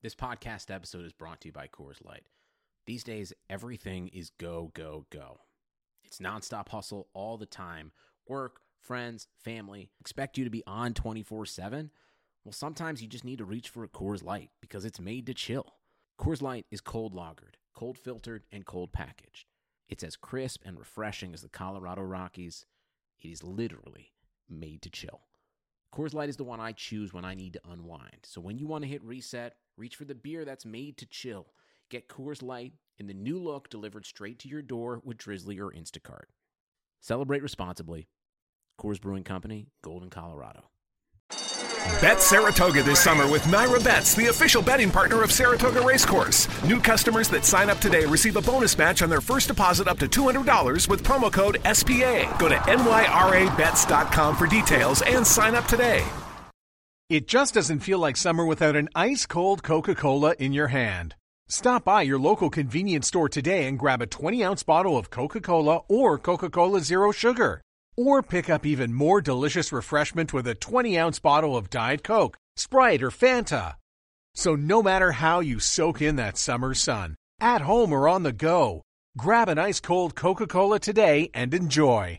This podcast episode is brought to you by Coors Light. These days, everything is go, go, go. It's nonstop hustle all the time. Work, friends, family, expect you to be on 24/7. Well, sometimes you just need to reach for a Coors Light because it's made to chill. Coors Light is cold lagered, cold filtered, and cold packaged. It's as crisp and refreshing as the Colorado Rockies. It is literally made to chill. Coors Light is the one I choose when I need to unwind. So when you want to hit reset, reach for the beer that's made to chill. Get Coors Light in the new look delivered straight to your door with Drizzly or Instacart. Celebrate responsibly. Coors Brewing Company, Golden, Colorado. Bet Saratoga this summer with Naira Bets, the official betting partner of Saratoga Racecourse. New customers that sign up today receive a bonus match on their first deposit up to $200 with promo code SPA. Go to nyrabets.com for details and sign up today. It just doesn't feel like summer without an ice-cold Coca-Cola in your hand. Stop by your local convenience store today and grab a 20-ounce bottle of Coca-Cola or Coca-Cola Zero Sugar. Or pick up even more delicious refreshment with a 20-ounce bottle of Diet Coke, Sprite, or Fanta. So no matter how you soak in that summer sun, at home or on the go, grab an ice-cold Coca-Cola today and enjoy.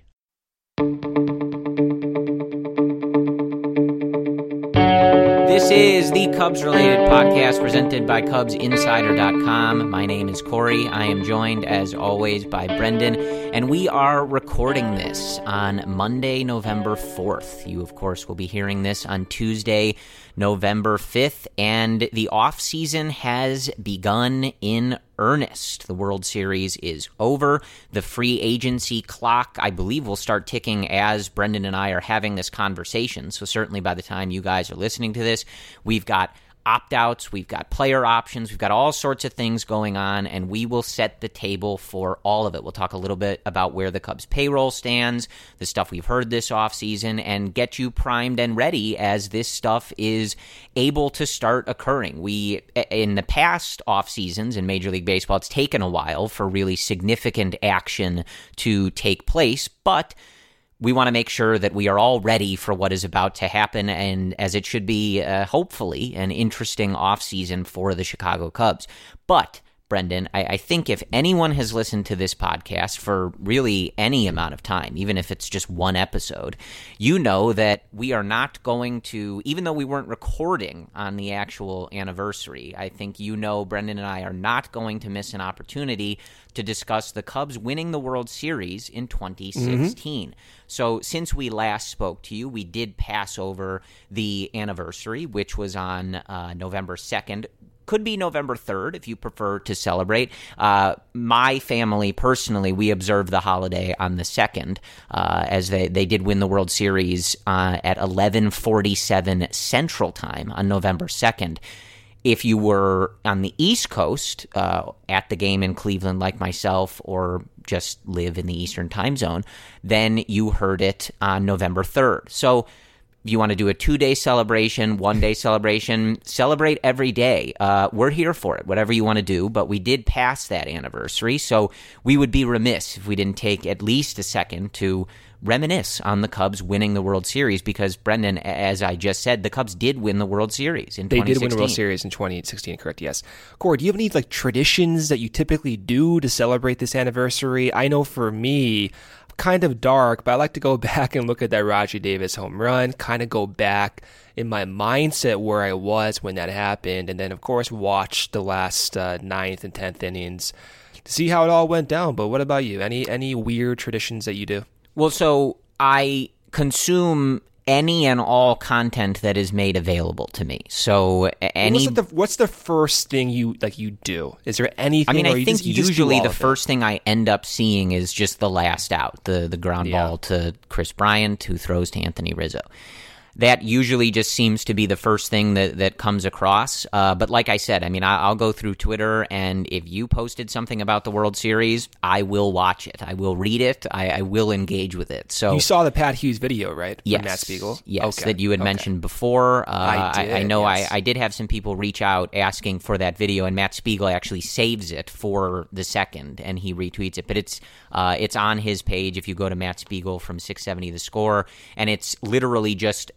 This is the Cubs-related podcast presented by CubsInsider.com. My name is Corey. I am joined, as always, by Brendan, and we are recording this on Monday, November 4th. You, of course, will be hearing this on Tuesday, November 5th, and the offseason has begun in earnest. The World Series is over. The free agency clock, I believe, will start ticking as Brendan and I are having this conversation. So certainly by the time you guys are listening to this, we've got opt-outs, we've got player options, we've got all sorts of things going on, and we will set the table for all of it. We'll talk a little bit about where the Cubs payroll stands, the stuff we've heard this offseason, and get you primed and ready as this stuff is able to start occurring. In the past offseasons in Major League Baseball, it's taken a while for really significant action to take place, but we want to make sure that we are all ready for what is about to happen, and as it should be, hopefully, an interesting offseason for the Chicago Cubs. But, Brendan, I think if anyone has listened to this podcast for really any amount of time, even if it's just one episode, you know that we are not going to, even though we weren't recording on the actual anniversary, I think you know Brendan and I are not going to miss an opportunity to discuss the Cubs winning the World Series in 2016. So since we last spoke to you, we did pass over the anniversary, which was on November 2nd. Could be November 3rd if you prefer to celebrate. My family, personally, we observed the holiday on the 2nd as they did win the World Series at 11:47 Central Time on November 2nd. If you were on the East Coast at the game in Cleveland like myself, or just live in the Eastern time zone, then you heard it on November 3rd. So if you want to do a 2-day celebration, 1-day celebration, celebrate every day. We're here for it, whatever you want to do, but we did pass that anniversary, so we would be remiss if we didn't take at least a second to reminisce on the Cubs winning the World Series, because, Brendan, as I just said, the Cubs did win the World Series in 2016. They did win the World Series in 2016, correct, yes. Corey, do you have any traditions that you typically do to celebrate this anniversary? I know for me, kind of dark, but I like to go back and look at that Rajai Davis home run, kind of go back in my mindset where I was when that happened, and then, of course, watch the last 9th and 10th innings to see how it all went down. But what about you? Any weird traditions that you do? Well, so I consume any and all content that is made available to me. So what's the first thing you do? Is there anything? I mean, I think you just usually the first thing I end up seeing is just the last out, the ground ball to Chris Bryant, who throws to Anthony Rizzo. That usually just seems to be the first thing that comes across. But like I said, I mean, I'll go through Twitter, and if you posted something about the World Series, I will watch it. I will read it. I will engage with it. So you saw the Pat Hughes video, right? Yes. From Matt Spiegel? Yes, that you had mentioned before. I know yes. I did have some people reach out asking for that video, and Matt Spiegel actually saves it for the 2nd, and he retweets it. But it's on his page if you go to Matt Spiegel from 670 The Score, and it's literally just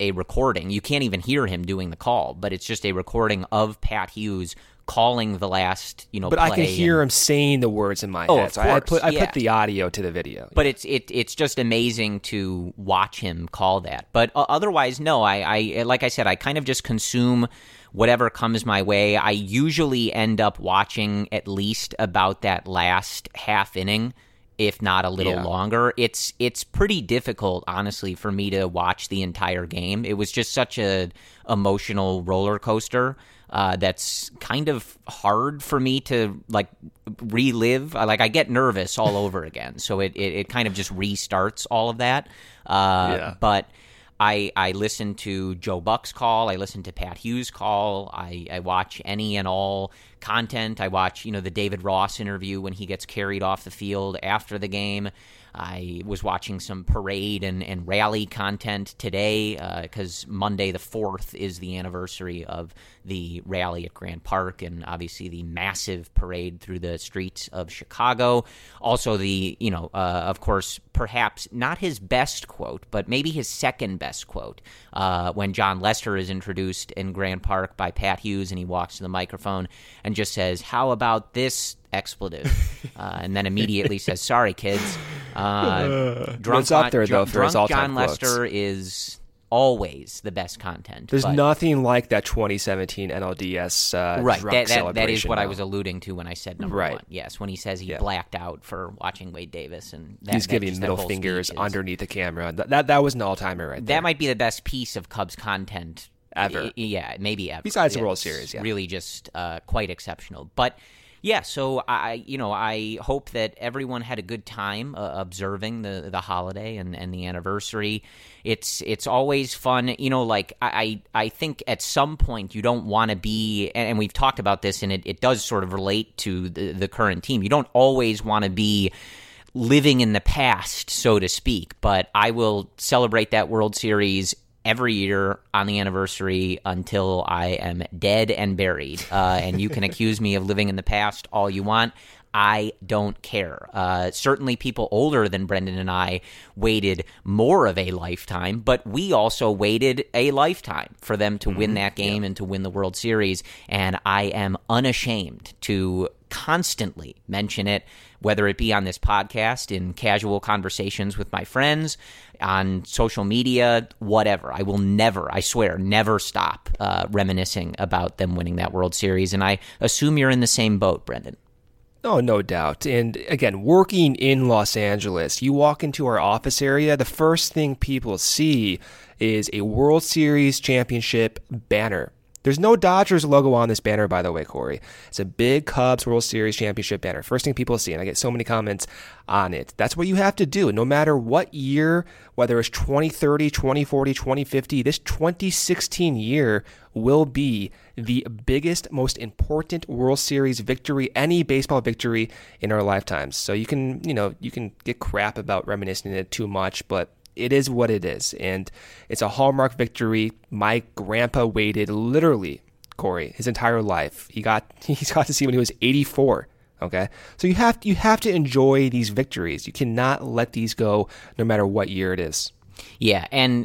a recording. You can't even hear him doing the call, but it's just a recording of Pat Hughes calling the last, but play. I can hear him saying the words in my head. Of so course, I put the audio to the video. But it's just amazing to watch him call that. But otherwise, no. I like I said, I kind of just consume whatever comes my way. I usually end up watching at least about that last half inning, if not a little longer. It's pretty difficult, honestly, for me to watch the entire game. It was just such a emotional roller coaster. That's kind of hard for me to relive. I get nervous all over again, so it kind of just restarts all of that. But I listen to Joe Buck's call. I listen to Pat Hughes' call. I watch any and all content. I watch the David Ross interview when he gets carried off the field after the game. I was watching some parade and rally content today because Monday the 4th is the anniversary of the rally at Grant Park and obviously the massive parade through the streets of Chicago. Also the, of course, perhaps not his best quote, but maybe his second best quote when John Lester is introduced in Grant Park by Pat Hughes and he walks to the microphone and just says, "How about this expletive?" And then immediately says, "Sorry, kids." It's up there, though, for his all-time John Lester is always the best content. There's nothing like that 2017 NLDS right. drunk celebration. That is what though. I was alluding to when I said number one. Yes, when he says he blacked out for watching Wade Davis. And he's giving middle fingers underneath the camera. That was an all-timer right there. That might be the best piece of Cubs content ever. Maybe ever. Besides the World Series, really just quite exceptional. But yeah, so I hope that everyone had a good time observing the holiday and the anniversary. It's always fun, I think at some point you don't want to be, and we've talked about this, and it does sort of relate to the current team. You don't always want to be living in the past, so to speak, but I will celebrate that World Series every year on the anniversary until I am dead and buried. And you can accuse me of living in the past all you want. I don't care. Certainly people older than Brendan and I waited more of a lifetime, but we also waited a lifetime for them to win that game and to win the World Series. And I am unashamed to constantly mention it, whether it be on this podcast, in casual conversations with my friends, on social media, whatever. I will never, I swear, never stop reminiscing about them winning that World Series. And I assume you're in the same boat, Brendan. Oh, no doubt. And again, working in Los Angeles, you walk into our office area, the first thing people see is a World Series championship banner. There's no Dodgers logo on this banner, by the way, Corey. It's a big Cubs World Series championship banner. First thing people see, and I get so many comments on it. That's what you have to do. No matter what year, whether it's 2030, 2040, 2050, this 2016 year will be the biggest, most important World Series victory, any baseball victory in our lifetimes. So you can get crap about reminiscing it too much, but it is what it is, and it's a hallmark victory. My grandpa waited literally, Corey, his entire life. He's got to see when he was 84. Okay, so you have to enjoy these victories. You cannot let these go, no matter what year it is. Yeah, and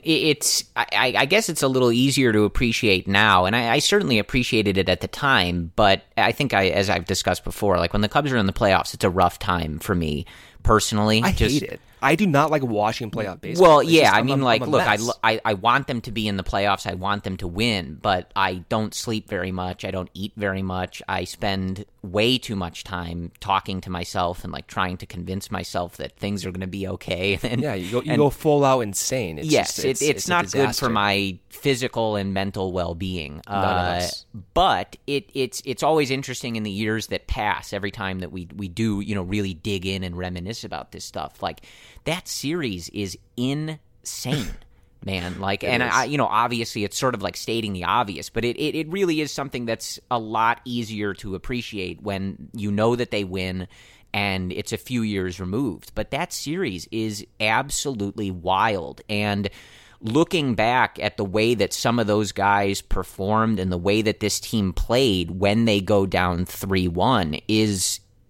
I guess it's a little easier to appreciate now, and I certainly appreciated it at the time, but I think as I've discussed before, like when the Cubs are in the playoffs, it's a rough time for me personally. I hate it. I do not like watching playoff baseball. Well, yeah, look, I want them to be in the playoffs. I want them to win, but I don't sleep very much. I don't eat very much. I spend way too much time talking to myself and like trying to convince myself that things are going to be okay. And, yeah, you go full out insane. It's not good for my physical and mental well-being. None of us. But it's always interesting in the years that pass. Every time that we do really dig in and reminisce about this stuff, like. That series is insane, man. Like, and obviously it's sort of like stating the obvious, but it really is something that's a lot easier to appreciate when you know that they win and it's a few years removed. But that series is absolutely wild. And looking back at the way that some of those guys performed and the way that this team played when they go down 3-1 is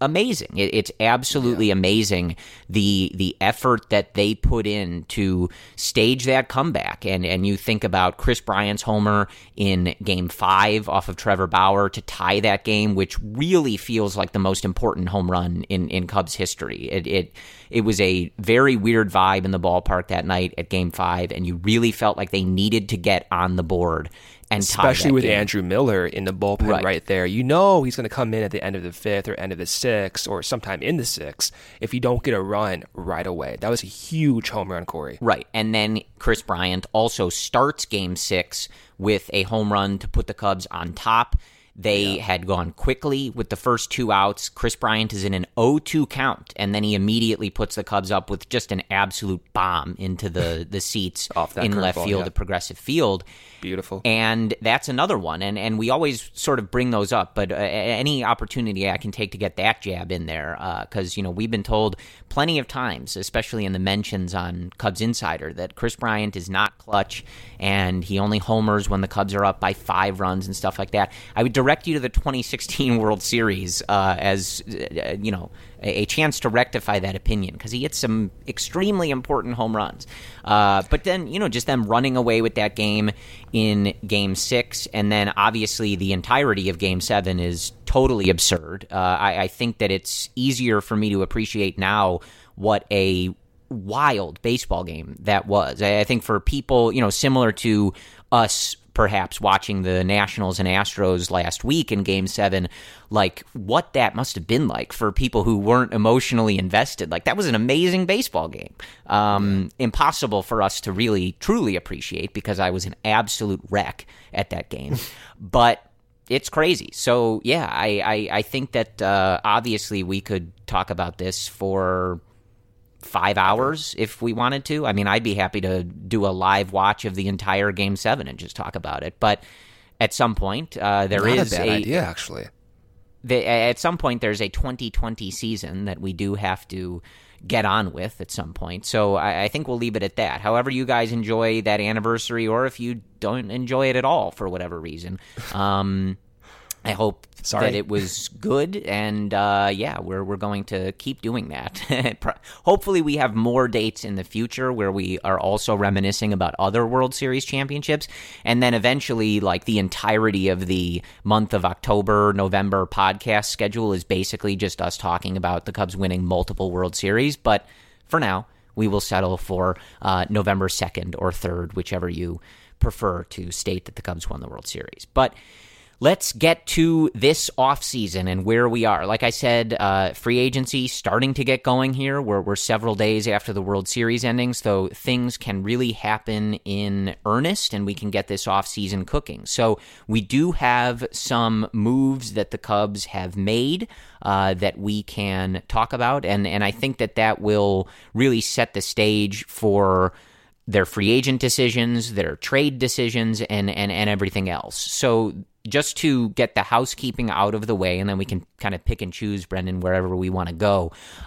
amazing. It's absolutely amazing the effort that they put in to stage that comeback. And you think about Chris Bryant's homer in Game 5 off of Trevor Bauer to tie that game, which really feels like the most important home run in Cubs history. It was a very weird vibe in the ballpark that night at Game 5, and you really felt like they needed to get on the board and especially with game. Andrew Miller in the bullpen right there. You know he's going to come in at the end of the 5th or end of the 6th or sometime in the 6th if you don't get a run right away. That was a huge home run, Corey. Right, and then Chris Bryant also starts Game 6 with a home run to put the Cubs on top. They had gone quickly with the first 2 outs. Chris Bryant is in an 0-2 count, and then he immediately puts the Cubs up with just an absolute bomb into the seats in left field at Progressive Field. Beautiful. And that's another one, and we always sort of bring those up, but any opportunity I can take to get that jab in there, because we've been told plenty of times, especially in the mentions on Cubs Insider, that Chris Bryant is not clutch, and he only homers when the Cubs are up by 5 runs and stuff like that. I would direct you to the 2016 World Series as a chance to rectify that opinion, because he hit some extremely important home runs. But then, just them running away with that game in Game 6, and then obviously the entirety of Game 7 is totally absurd. I think that it's easier for me to appreciate now what a wild baseball game that was. I think for people, similar to us perhaps watching the Nationals and Astros last week in Game 7, like what that must have been like for people who weren't emotionally invested. Like that was an amazing baseball game. Impossible for us to really, truly appreciate because I was an absolute wreck at that game. But it's crazy. So, yeah, I think that obviously we could talk about this for 5 hours if we wanted to. I mean, I'd be happy to do a live watch of the entire Game 7 and just talk about it. But at some point, there is a idea, actually. At some point, there's a 2020 season that we do have to get on with at some point. So I think we'll leave it at that. However you guys enjoy that anniversary, or if you don't enjoy it at all for whatever reason, I hope that it was good, and we're going to keep doing that. Hopefully we have more dates in the future where we are also reminiscing about other World Series championships, and then eventually like the entirety of the month of October, November podcast schedule is basically just us talking about the Cubs winning multiple World Series, but for now, we will settle for November 2nd or 3rd, whichever you prefer to state that the Cubs won the World Series. But let's get to this offseason and where we are. Like I said, free agency starting to get going here. We're several days after the World Series ending, so things can really happen in earnest, and we can get this offseason cooking. So we do have some moves that the Cubs have made that we can talk about, and I think that will really set the stage for their free agent decisions, their trade decisions, and everything else. So just to get the housekeeping out of the way, and then we can kind of pick and choose, Brendan, wherever we want to go.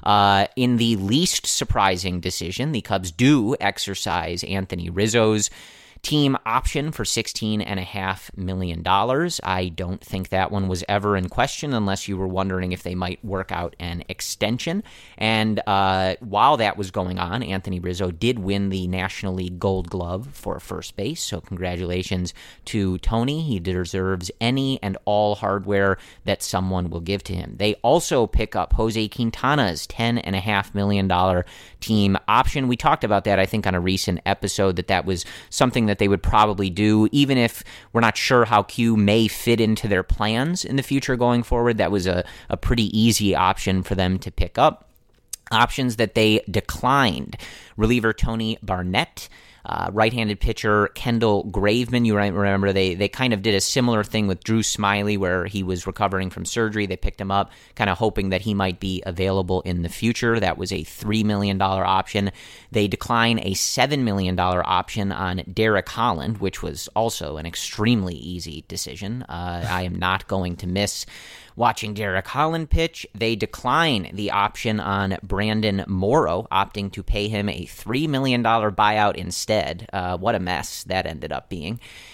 In the least surprising decision, the Cubs do exercise Anthony Rizzo's team option for $16.5 million. I don't think that one was ever in question unless you were wondering if they might work out an extension. And while that was going on, Anthony Rizzo did win the National League Gold Glove for first base. So congratulations to Tony. He deserves any and all hardware that someone will give to him. They also pick up Jose Quintana's $10.5 million team option. We talked about that, I think, on a recent episode, that was something that they would probably do, even if we're not sure how Q may fit into their plans in the future going forward. That was a pretty easy option for them to pick up. Options that they declined: reliever Tony Barnett, right-handed pitcher Kendall Graveman. You remember they kind of did a similar thing with Drew Smyly, where he was recovering from surgery. They picked him up, kind of hoping that he might be available in the future. That was a $3 million option. They decline a $7 million option on Derek Holland, which was also an extremely easy decision. I am not going to miss watching Derek Holland pitch. They decline the option on Brandon Morrow, opting to pay him a $3 million buyout instead. What a mess that ended up being.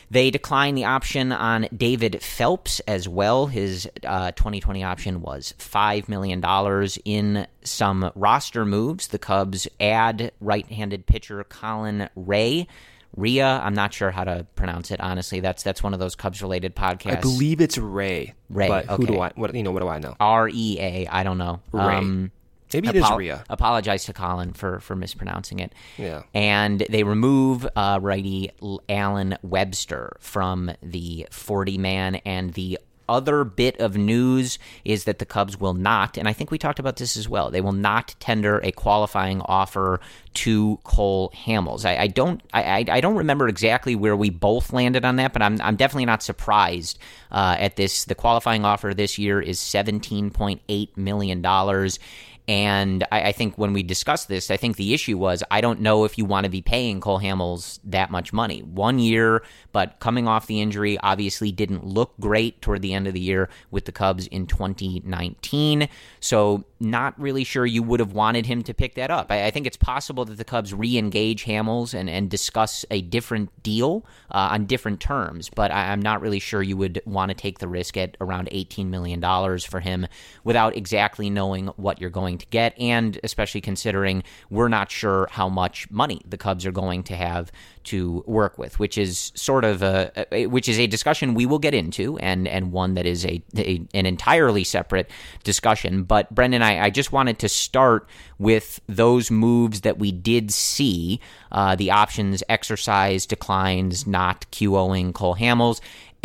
They declined the option on David Phelps as well. His 2020 option was $5 million. In some roster moves, the Cubs add right-handed pitcher Colin Rea. I'm not sure how to pronounce it, honestly. That's one of those Cubs-related podcasts. I believe it's Ray. But okay. What do I know? Rea, I don't know. Ray. Maybe it is Rhea. Apologize to Colin for mispronouncing it. Yeah. And they remove righty Alan Webster from the 40-man. And the other bit of news is that the Cubs will not, and I think we talked about this as well, they will not tender a qualifying offer to Cole Hamels. I don't remember exactly where we both landed on that, but I'm definitely not surprised at this. The qualifying offer this year is $17.8 million. And I think when we discussed this, I think the issue was I don't know if you want to be paying Cole Hamels that much money. 1 year, but coming off the injury, obviously didn't look great toward the end of the year with the Cubs in 2019. So not really sure you would have wanted him to pick that up. I think it's possible that the Cubs re-engage Hamels and discuss a different deal on different terms, but I'm not really sure you would want to take the risk at around $18 million for him without exactly knowing what you're going to get, and especially considering we're not sure how much money the Cubs are going to have to work with, which is sort of a discussion we will get into, and one that is an entirely separate discussion. But Brendan, I just wanted to start with those moves that we did see, the options exercise declines, not QOing Cole Hamels.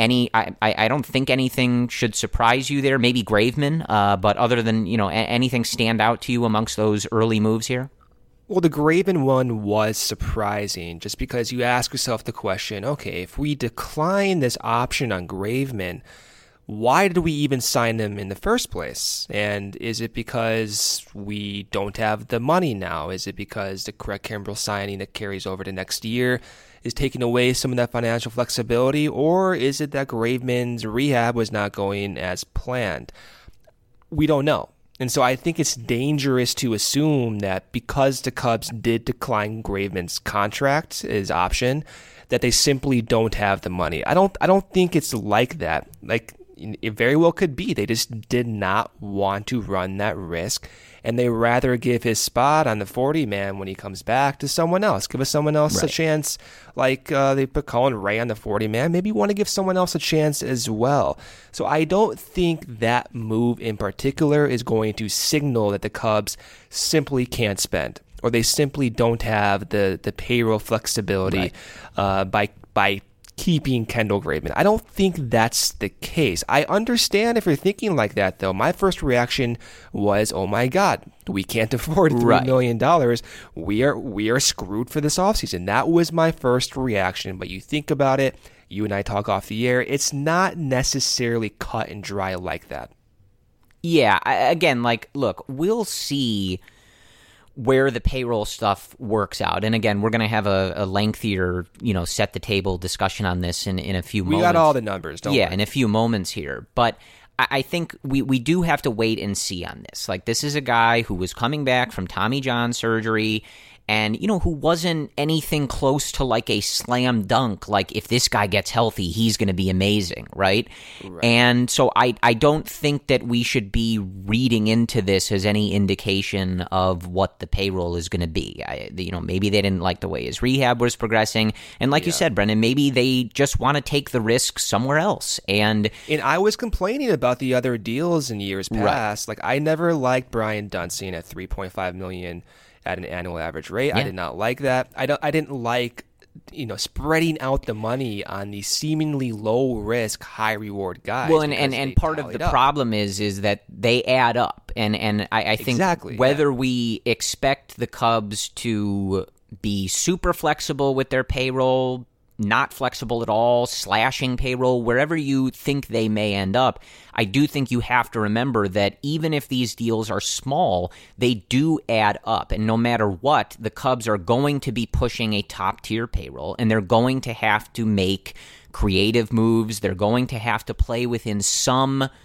I don't think anything should surprise you there. Maybe Graveman, but other than, anything stand out to you amongst those early moves here? Well, the Graveman one was surprising just because you ask yourself the question, okay, if we decline this option on Graveman, why did we even sign him in the first place? And is it because we don't have the money now? Is it because the Craig Kimbrel signing that carries over to next year is taking away some of that financial flexibility? Or is it that Graveman's rehab was not going as planned? We don't know. And so I think it's dangerous to assume that because the Cubs did decline Graveman's contract, his option, that they simply don't have the money. I don't think it's like that. Like, it very well could be. They just did not want to run that risk, and they rather give his spot on the 40-man when he comes back to someone else. Give someone else a chance, like they put Colin Rea on the 40-man. Maybe you want to give someone else a chance as well. So I don't think that move in particular is going to signal that the Cubs simply can't spend, or they simply don't have the payroll flexibility by keeping Kendall Graveman. I don't think that's the case. I understand if you're thinking like that, though. My first reaction was, oh my God, we can't afford $3 million. We are screwed for this offseason. That was my first reaction. But you think about it, you and I talk off the air, it's not necessarily cut and dry like that. Yeah, again, look, we'll see where the payroll stuff works out. And again, we're going to have a lengthier, set the table discussion on this in a few moments. We got all the numbers, don't we? Yeah, in a few moments here. But I think we do have to wait and see on this. Like, this is a guy who was coming back from Tommy John surgery and, who wasn't anything close to like a slam dunk. Like, if this guy gets healthy, he's going to be amazing, right? And so I don't think that we should be reading into this as any indication of what the payroll is going to be. Maybe they didn't like the way his rehab was progressing. And like you said, Brendan, maybe they just want to take the risk somewhere else. And I was complaining about the other deals in years past. Like, I never liked Brian Dunston at $3.5 million at an annual average rate. I did not like that. I didn't like, spreading out the money on these seemingly low risk, high reward guys. Well, and part of the problem is that they add up, and I think whether we expect the Cubs to be super flexible with their payroll, not flexible at all, slashing payroll, wherever you think they may end up, I do think you have to remember that even if these deals are small, they do add up. And no matter what, the Cubs are going to be pushing a top-tier payroll, and they're going to have to make creative moves. They're going to have to play within some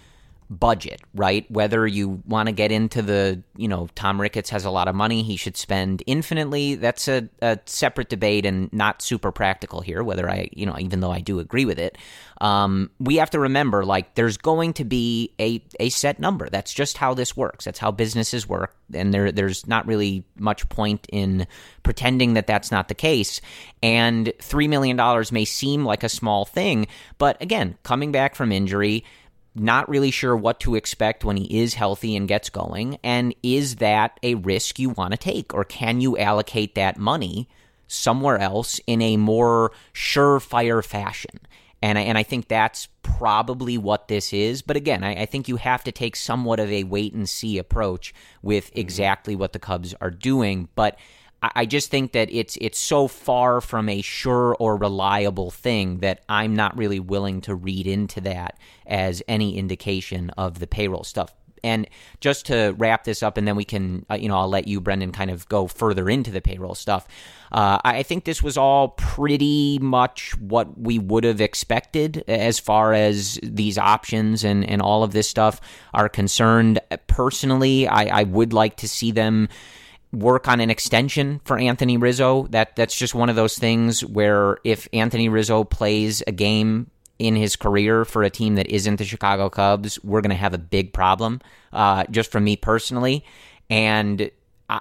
budget, right? Whether you want to get into the, Tom Ricketts has a lot of money, he should spend infinitely. That's a separate debate and not super practical here, whether even though I do agree with it. We have to remember, there's going to be a set number. That's just how this works. That's how businesses work. And there's not really much point in pretending that that's not the case. And $3 million may seem like a small thing, but again, coming back from injury, not really sure what to expect when he is healthy and gets going. And is that a risk you want to take, or can you allocate that money somewhere else in a more surefire fashion? And I think that's probably what this is. But again, I think you have to take somewhat of a wait-and-see approach with exactly what the Cubs are doing. But I just think that it's so far from a sure or reliable thing that I'm not really willing to read into that as any indication of the payroll stuff. And just to wrap this up, and then we can, I'll let you, Brendan, kind of go further into the payroll stuff. I think this was all pretty much what we would have expected as far as these options and all of this stuff are concerned. Personally, I would like to see them work on an extension for Anthony Rizzo. That's just one of those things where if Anthony Rizzo plays a game in his career for a team that isn't the Chicago Cubs, we're going to have a big problem, just from me personally. And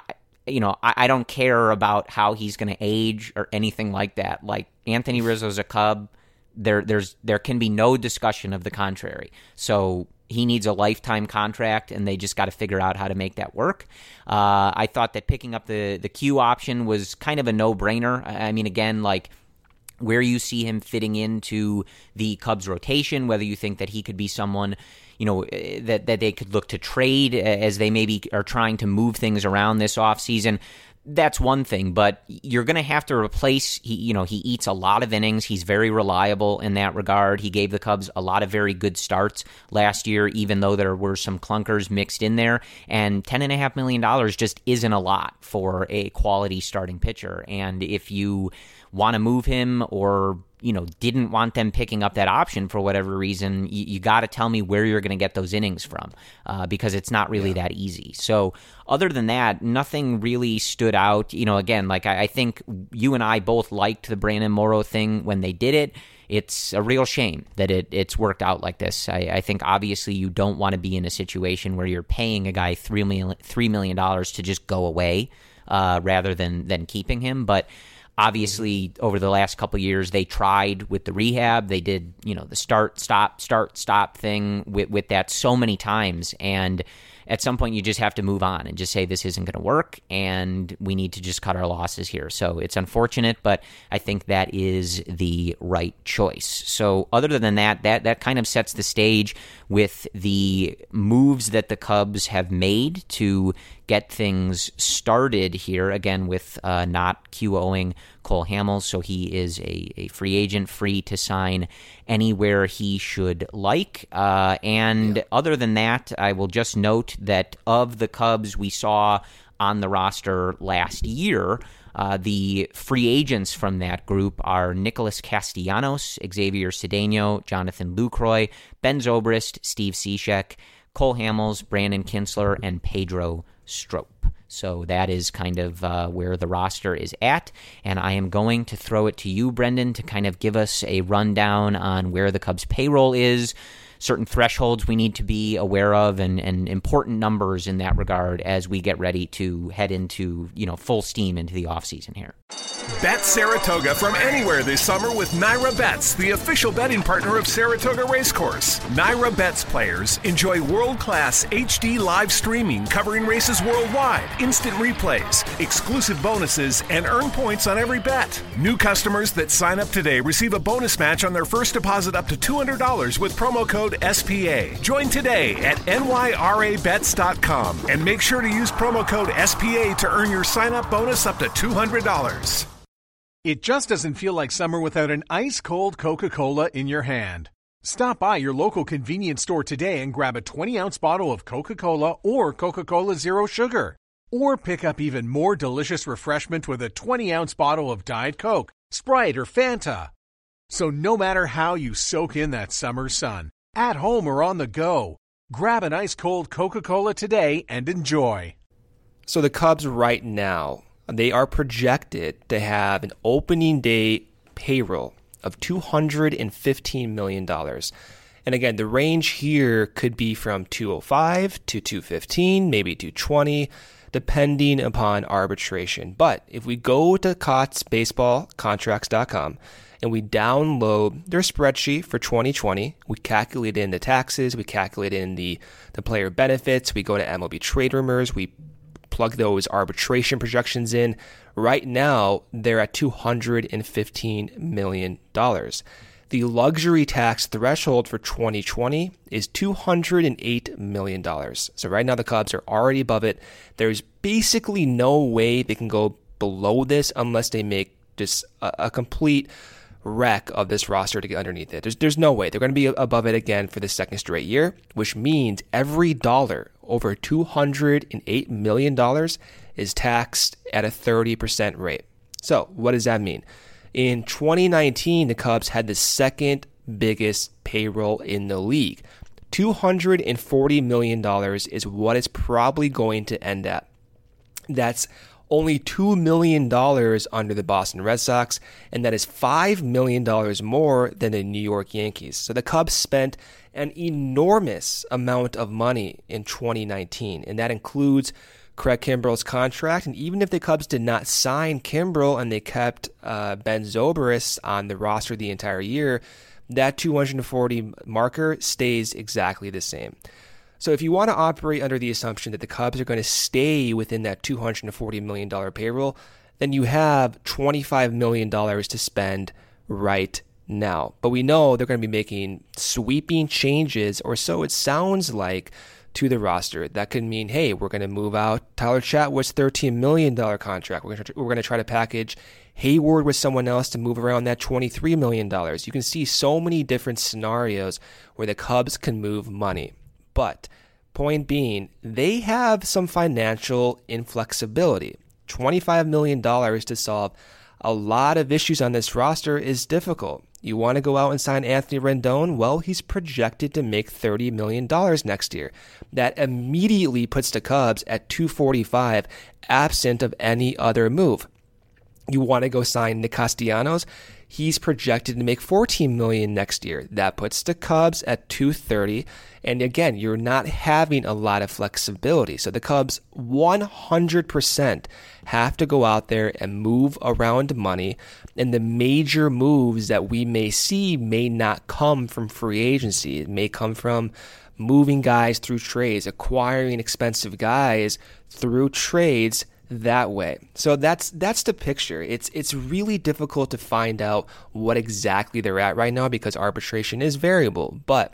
I don't care about how he's going to age or anything like that. Anthony Rizzo's a Cub. There can be no discussion of the contrary. So he needs a lifetime contract, and they just got to figure out how to make that work. I thought that picking up the Q option was kind of a no-brainer. I mean, again, where you see him fitting into the Cubs rotation, whether you think that he could be someone, that they could look to trade as they maybe are trying to move things around this offseason. That's one thing, but you're going to have to replace, he eats a lot of innings. He's very reliable in that regard. He gave the Cubs a lot of very good starts last year, even though there were some clunkers mixed in there. And $10.5 million just isn't a lot for a quality starting pitcher. And if you want to move him or didn't want them picking up that option for whatever reason, you got to tell me where you're going to get those innings from, because it's not really that easy. So other than that, nothing really stood out. Again, I think you and I both liked the Brandon Morrow thing when they did it. It's a real shame that it's worked out like this. I think obviously you don't want to be in a situation where you're paying a guy $3 million to just go away rather than keeping him. But obviously, over the last couple of years, they tried with the rehab. They did, the start, stop thing with that so many times. And at some point, you just have to move on and just say this isn't going to work, and we need to just cut our losses here. So it's unfortunate, but I think that is the right choice. So other than that kind of sets the stage with the moves that the Cubs have made to get things started here, again, with not QOing Cole Hamels, so he is a free agent, free to sign anywhere he should like. Other than that, I will just note that of the Cubs we saw on the roster last year, the free agents from that group are Nicholas Castellanos, Xavier Cedeno, Jonathan Lucroy, Ben Zobrist, Steve Cishek, Cole Hamels, Brandon Kinsler, and Pedro Strop. So that is kind of where the roster is at, and I am going to throw it to you, Brendan, to kind of give us a rundown on where the Cubs payroll is, certain thresholds we need to be aware of, and important numbers in that regard as we get ready to head into, full steam into the offseason here. Bet Saratoga from anywhere this summer with Naira Bets, the official betting partner of Saratoga Racecourse. Naira Bets players enjoy world-class HD live streaming covering races worldwide, instant replays, exclusive bonuses, and earn points on every bet. New customers that sign up today receive a bonus match on their first deposit up to $200 with promo code SPA. Join today at nyrabets.com and make sure to use promo code SPA to earn your sign-up bonus up to $200. It just doesn't feel like summer without an ice-cold Coca-Cola in your hand. Stop by your local convenience store today and grab a 20-ounce bottle of Coca-Cola or Coca-Cola Zero Sugar. Or pick up even more delicious refreshment with a 20-ounce bottle of Diet Coke, Sprite, or Fanta. So no matter how you soak in that summer sun, at home or on the go, Grab an ice-cold Coca-Cola today and enjoy. So the Cubs right now, they are projected to have an opening day payroll of $215 million. And again, the range here could be from 205 to 215, maybe 220, depending upon arbitration. But if we go to CottsBaseballContracts.com and we download their spreadsheet for 2020, we calculate in the taxes, we calculate in the player benefits, we go to MLB Trade Rumors, we plug those arbitration projections in. Right now, they're at $215 million. The luxury tax threshold for 2020 is $208 million. So right now the Cubs are already above it. There's basically no way they can go below this unless they make just a complete wreck of this roster to get underneath it. There's no way. They're going to be above it again for the second straight year, which means every dollar over $208 million is taxed at a 30% rate. So what does that mean? In 2019, the Cubs had the second biggest payroll in the league. $240 million is what it's probably going to end at. That's only $2 million under the Boston Red Sox, and that is $5 million more than the New York Yankees. So the Cubs spent an enormous amount of money in 2019, and that includes Craig Kimbrell's contract. And even if the Cubs did not sign Kimbrell and they kept Ben Zobrist on the roster the entire year, that 240 marker stays exactly the same. So if you want to operate under the assumption that the Cubs are going to stay within that $240 million payroll, then you have $25 million to spend right now. But we know they're going to be making sweeping changes, or so it sounds like, to the roster. That could mean, hey, we're going to move out Tyler Chatwood's $13 million contract. We're going to try to package Hayward with someone else to move around that $23 million. You can see so many different scenarios where the Cubs can move money. But point being, they have some financial inflexibility. $25 million to solve a lot of issues on this roster is difficult. You want to go out and sign Anthony Rendon? Well, he's projected to make $30 million next year. That immediately puts the Cubs at $245, absent of any other move. You want to go sign Nick Castellanos? He's projected to make $14 million next year. That puts the Cubs at $230. And again, you're not having a lot of flexibility. So the Cubs 100% have to go out there and move around money. And the major moves that we may see may not come from free agency. It may come from moving guys through trades, acquiring expensive guys through trades that way. So that's the picture. It's really difficult to find out what exactly they're at right now because arbitration is variable. But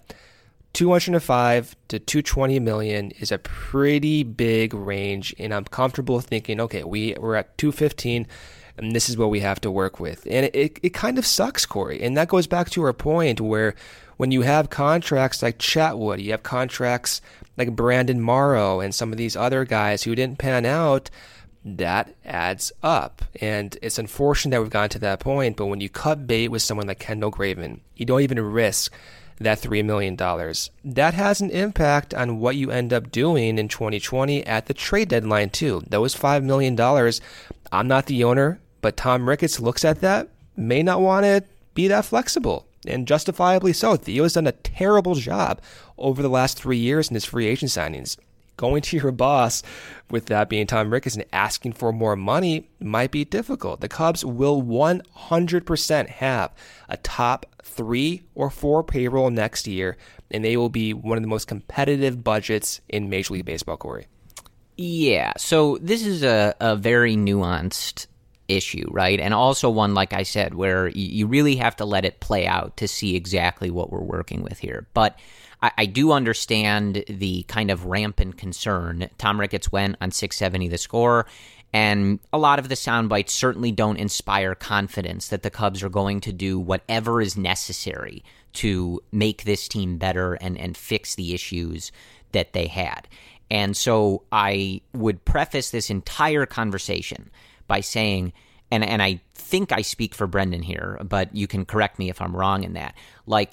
205 to 220 million is a pretty big range, and I'm comfortable thinking, okay, we're at 215, and this is what we have to work with. And it kind of sucks, Corey. And that goes back to our point where when you have contracts like Chatwood, you have contracts like Brandon Morrow and some of these other guys who didn't pan out, that adds up. And it's unfortunate that we've gotten to that point, but when you cut bait with someone like Kendall Graveman, you don't even risk that $3 million. That has an impact on what you end up doing in 2020 at the trade deadline too. Those $5 million, I'm not the owner, but Tom Ricketts looks at that, may not want to be that flexible, and justifiably so. Theo's done a terrible job over the last 3 years in his free agent signings. Going to your boss, with that being Tom Ricketts, and asking for more money might be difficult. The Cubs will 100% have a top 3 or 4 payroll next year, and they will be one of the most competitive budgets in Major League Baseball, Corey. Yeah, so this is a very nuanced issue, right? And also one, like I said, where you really have to let it play out to see exactly what we're working with here. But I do understand the kind of rampant concern. Tom Ricketts went on 670 The Score, and a lot of the sound bites certainly don't inspire confidence that the Cubs are going to do whatever is necessary to make this team better and fix the issues that they had. And so I would preface this entire conversation by saying, and I think I speak for Brendan here, but you can correct me if I'm wrong in that, like,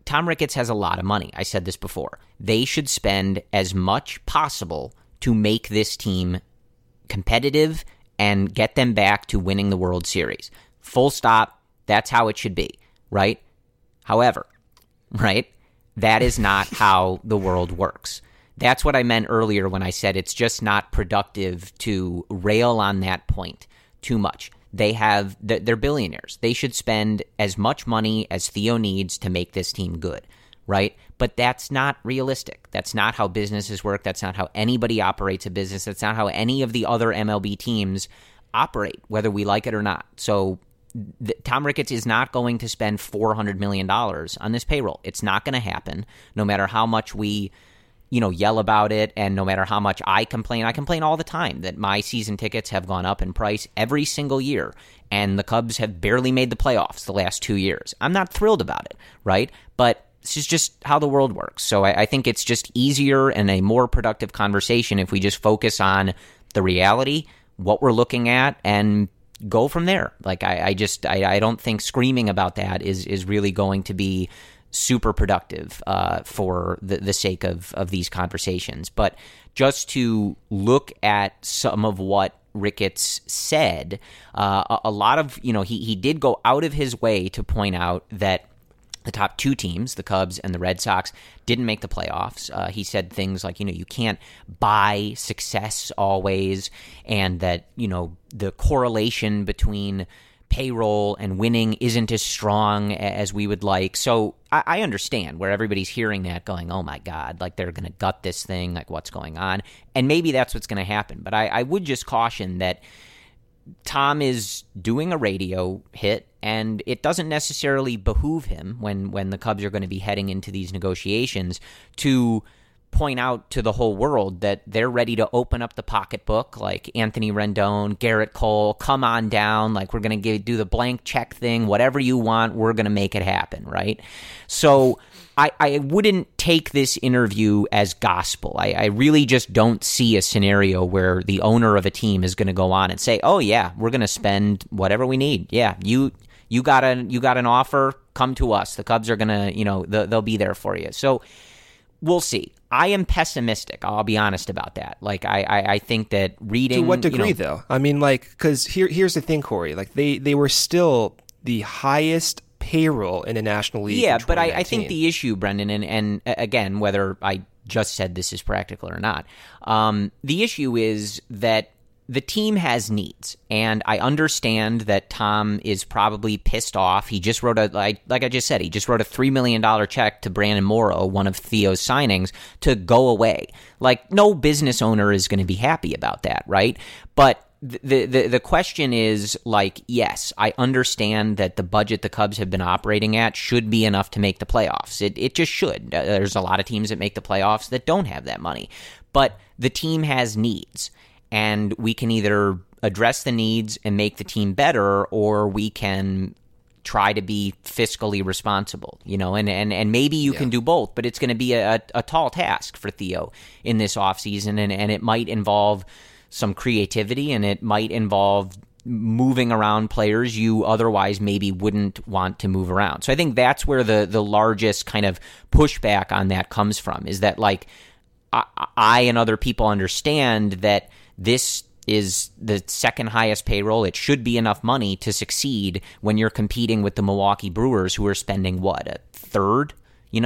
Tom Ricketts has a lot of money. I said this before. They should spend as much possible to make this team competitive and get them back to winning the World Series. Full stop. That's how it should be, right? However, right, that is not how the world works. That's what I meant earlier when I said it's just not productive to rail on that point too much. They're billionaires. They should spend as much money as Theo needs to make this team good, right? But that's not realistic. That's not how businesses work. That's not how anybody operates a business. That's not how any of the other MLB teams operate, whether we like it or not. So Tom Ricketts is not going to spend $400 million on this payroll. It's not going to happen, no matter how much we yell about it, and no matter how much I complain all the time that my season tickets have gone up in price every single year, and the Cubs have barely made the playoffs the last 2 years. I'm not thrilled about it, right? But this is just how the world works. So I think it's just easier and a more productive conversation if we just focus on the reality, what we're looking at, and go from there. Like I don't think screaming about that is really going to be super productive for the sake of these conversations. But just to look at some of what Ricketts said, a lot of, he did go out of his way to point out that the top two teams, the Cubs and the Red Sox, didn't make the playoffs. He said things like, you can't buy success always, and that, the correlation between payroll and winning isn't as strong as we would like. So I understand where everybody's hearing that going, oh my God, like they're going to gut this thing, like what's going on? And maybe that's what's going to happen. But I would just caution that Tom is doing a radio hit, and it doesn't necessarily behoove him when the Cubs are going to be heading into these negotiations to point out to the whole world that they're ready to open up the pocketbook, like Anthony Rendon, Garrett Cole, come on down, like we're going to do the blank check thing, whatever you want, we're going to make it happen, right? So I wouldn't take this interview as gospel. I really just don't see a scenario where the owner of a team is going to go on and say, oh yeah, we're going to spend whatever we need. Yeah, you got an offer, come to us. The Cubs are going to, they'll be there for you. So we'll see. I am pessimistic. I'll be honest about that. Like, I think that reading... To what degree, though? I mean, like, because here's the thing, Corey. Like, they were still the highest payroll in the National League. Yeah, but I think the issue, Brendan, and again, whether I just said this is practical or not, the issue is that the team has needs, and I understand that Tom is probably pissed off. He just wrote like I just said, he just wrote a $3 million check to Brandon Morrow, one of Theo's signings, to go away. Like, no business owner is going to be happy about that, right? But the question is, like, yes, I understand that the budget the Cubs have been operating at should be enough to make the playoffs. It just should. There's a lot of teams that make the playoffs that don't have that money. But the team has needs. And we can either address the needs and make the team better, or we can try to be fiscally responsible, and maybe you can do both, but it's going to be a tall task for Theo in this offseason, and it might involve some creativity, and it might involve moving around players you otherwise maybe wouldn't want to move around. So I think that's where the largest kind of pushback on that comes from, is that, like, I and other people understand that this is the second highest payroll. It should be enough money to succeed when you're competing with the Milwaukee Brewers, who are spending a third,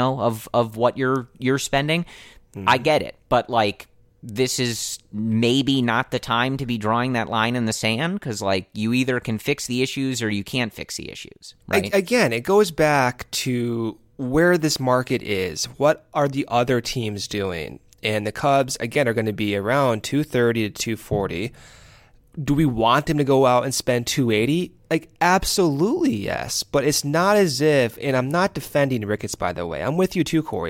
of what you're spending. Mm-hmm. I get it, but like, this is maybe not the time to be drawing that line in the sand, because like, you either can fix the issues or you can't fix the issues. Right? Again, it goes back to where this market is. What are the other teams doing? And the Cubs, again, are going to be around 230 to 240. Do we want them to go out and spend 280? Like, absolutely, yes. But it's not as if, and I'm not defending Ricketts, by the way. I'm with you too, Corey.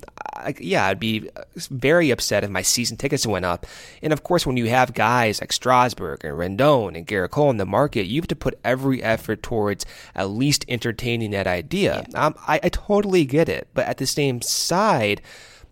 I'd be very upset if my season tickets went up. And of course, when you have guys like Strasburg and Rendon and Garrett Cole in the market, you have to put every effort towards at least entertaining that idea. I totally get it. But at the same side,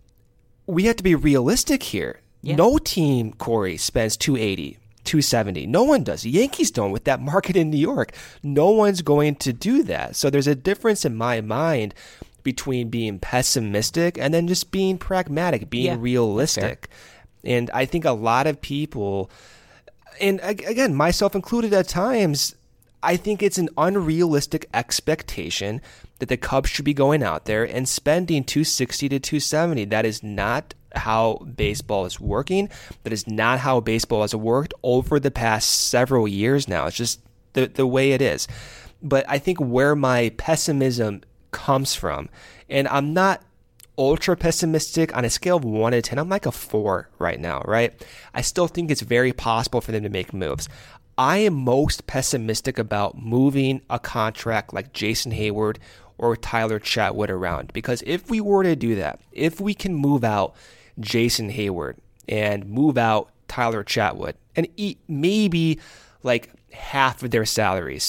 we have to be realistic here. Yeah. No team, Corey, spends 280, 270. No one does. The Yankees don't with that market in New York. No one's going to do that. So there's a difference in my mind between being pessimistic and then just being pragmatic, being realistic. And I think a lot of people, and again, myself included at times, I think it's an unrealistic expectation that the Cubs should be going out there and spending $260 to $270. That is not how baseball is working. That is not how baseball has worked over the past several years now. It's just the way it is. But I think where my pessimism comes from, and I'm not ultra pessimistic on a scale of 1 to 10, I'm like a 4 right now, right? I still think it's very possible for them to make moves. I am most pessimistic about moving a contract like Jason Hayward or Tyler Chatwood around, because if we were to do that, if we can move out Jason Hayward and move out Tyler Chatwood and eat maybe like half of their salaries,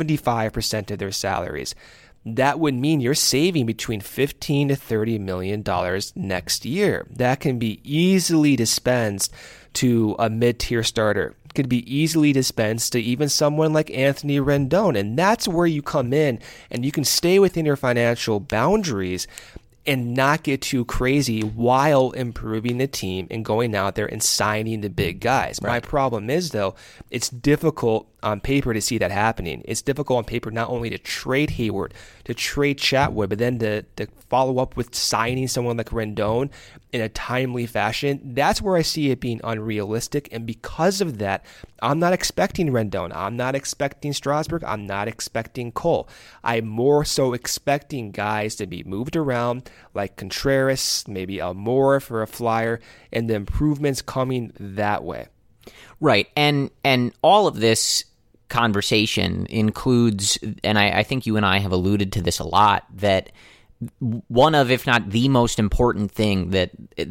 75% of their salaries, that would mean you're saving between $15 to $30 million next year. That can be easily dispensed to a mid-tier starter. Could be easily dispensed to even someone like Anthony Rendon. And that's where you come in and you can stay within your financial boundaries and not get too crazy while improving the team and going out there and signing the big guys. Right. My problem is, though, it's difficult on paper to see that happening. It's difficult on paper not only to trade Hayward, to trade Chatwood, but then to follow up with signing someone like Rendon in a timely fashion. That's where I see it being unrealistic. And because of that, I'm not expecting Rendon. I'm not expecting Strasburg. I'm not expecting Cole. I'm more so expecting guys to be moved around like Contreras, maybe Almora for a flyer, and the improvements coming that way. Right. And all of this conversation includes, and I think you and I have alluded to this a lot, that one of, if not the most important thing that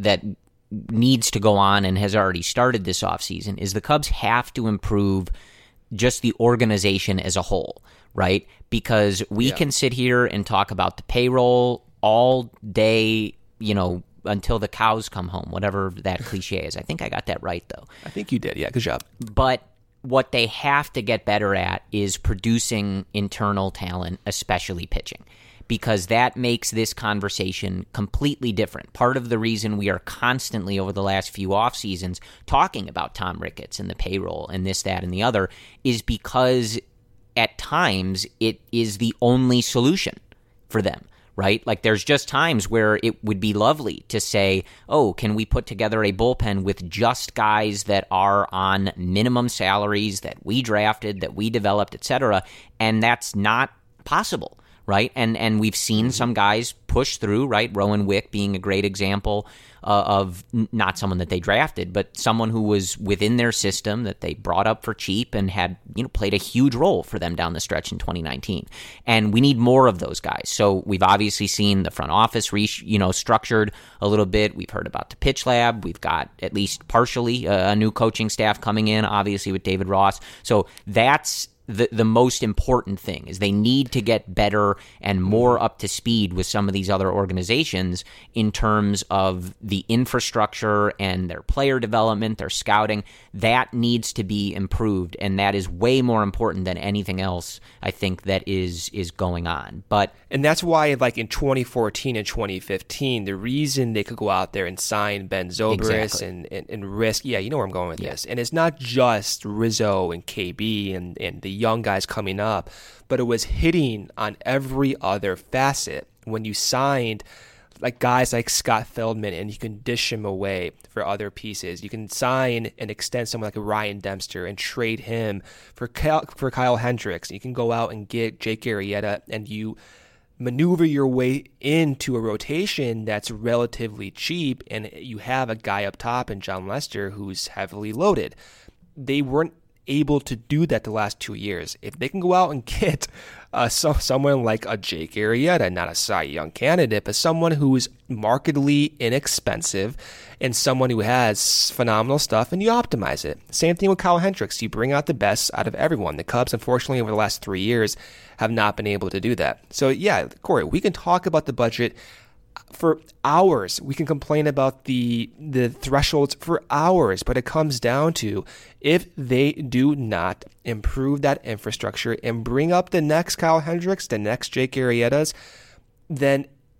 needs to go on and has already started this offseason is the Cubs have to improve just the organization as a whole, right? Because we can sit here and talk about the payroll all day, until the cows come home, whatever that cliche is. I think I got that right, though. I think you did. Yeah, good job. But what they have to get better at is producing internal talent, especially pitching, because that makes this conversation completely different. Part of the reason we are constantly over the last few off seasons talking about Tom Ricketts and the payroll and this, that, and the other is because at times it is the only solution for them. Right? Like there's just times where it would be lovely to say, oh, can we put together a bullpen with just guys that are on minimum salaries that we drafted, that we developed, et cetera, and that's not possible, right? And we've seen some guys push through, right? Rowan Wick being a great example of not someone that they drafted, but someone who was within their system that they brought up for cheap and had played a huge role for them down the stretch in 2019. And we need more of those guys. So we've obviously seen the front office structured a little bit. We've heard about the pitch lab. We've got at least partially a new coaching staff coming in, obviously with David Ross. So that's the most important thing is they need to get better and more up to speed with some of these other organizations in terms of the infrastructure and their player development, their scouting. That needs to be improved, and that is way more important than anything else, I think, that is going on. And that's why, like in 2014 and 2015, the reason they could go out there and sign Ben Zobrist and risk, you know where I'm going with this. And it's not just Rizzo and KB and the young guys coming up, but it was hitting on every other facet. When you signed like guys like Scott Feldman and you can dish him away for other pieces, you can sign and extend someone like Ryan Dempster and trade him for Kyle Hendricks. You can go out and get Jake Arrieta and you maneuver your way into a rotation that's relatively cheap, and you have a guy up top in John Lester who's heavily loaded. They weren't able to do that the last 2 years. If they can go out and get someone like a Jake Arrieta, not a Cy Young candidate, but someone who is markedly inexpensive and someone who has phenomenal stuff, and you optimize it. Same thing with Kyle Hendricks. You bring out the best out of everyone. The Cubs, unfortunately, over the last 3 years have not been able to do that. So yeah, Corey, we can talk about the budget for hours. We can complain about the thresholds for hours, but it comes down to if they do not improve that infrastructure and bring up the next Kyle Hendricks, the next Jake Arrietas, then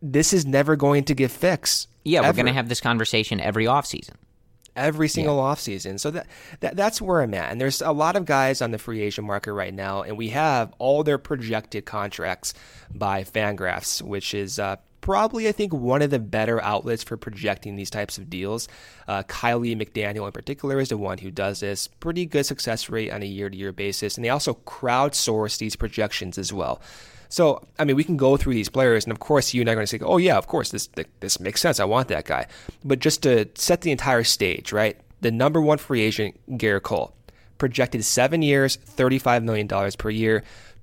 this is never going to get fixed. Yeah, ever. we're going to have this conversation every offseason. Every single offseason. So that's where I'm at. And there's a lot of guys on the free agent market right now, and we have all their projected contracts by Fangraphs, which is probably, I think, one of the better outlets for projecting these types of deals. Kylie McDaniel in particular is the one who does this. Pretty good success rate on a year-to-year basis. And they also crowdsource these projections as well. So, I mean, we can go through these players, and of course, you and I are going to say, oh, yeah, of course, this makes sense. I want that guy. But just to set the entire stage, right? The number one free agent, Garrett Cole, projected 7 years, $35 million per year,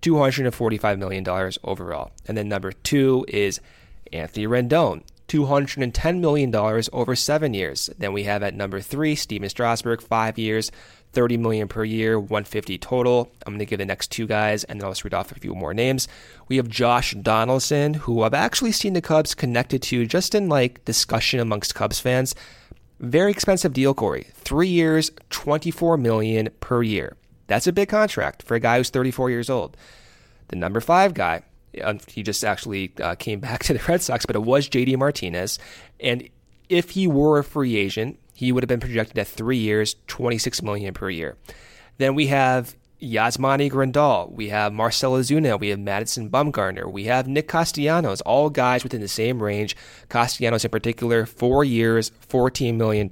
$245 million overall. And then number two is Anthony Rendon, $210 million over 7 years. Then we have at number three, Steven Strasburg, 5 years, $30 million per year, $150 total. I'm going to give the next two guys, and then I'll just read off a few more names. We have Josh Donaldson, who I've actually seen the Cubs connected to just in like discussion amongst Cubs fans. Very expensive deal, Corey. 3 years, $24 million per year. That's a big contract for a guy who's 34 years old. The number five guy, he just actually came back to the Red Sox, but it was JD Martinez. And if he were a free agent, he would have been projected at 3 years, $26 million per year. Then we have Yasmani Grandal. We have Marcell Ozuna. We have Madison Bumgarner. We have Nick Castellanos, all guys within the same range. Castellanos in particular, 4 years, $14 million,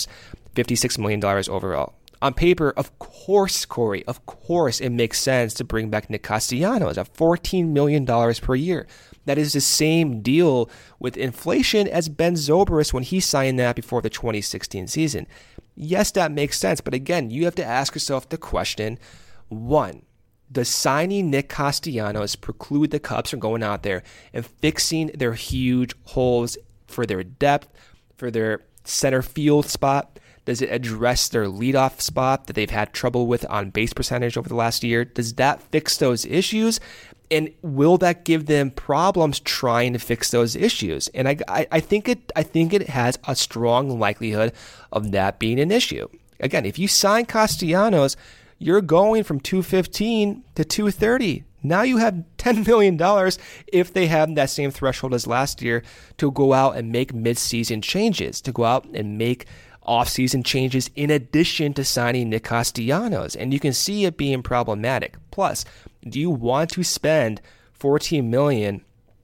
$56 million overall. On paper, of course, Corey, of course it makes sense to bring back Nick Castellanos at $14 million per year. That is the same deal with inflation as Ben Zobrist when he signed that before the 2016 season. Yes, that makes sense, but again, you have to ask yourself the question, one, does signing Nick Castellanos preclude the Cubs from going out there and fixing their huge holes for their depth, for their center field spot? Does it address their leadoff spot that they've had trouble with on base percentage over the last year? Does that fix those issues? And will that give them problems trying to fix those issues? And I think it has a strong likelihood of that being an issue. Again, if you sign Castellanos, you're going from $215 to $230. Now you have $10 million if they have that same threshold as last year to go out and make midseason changes, to go out and make offseason changes in addition to signing Nick Castellanos. And you can see it being problematic. Plus, do you want to spend $14 million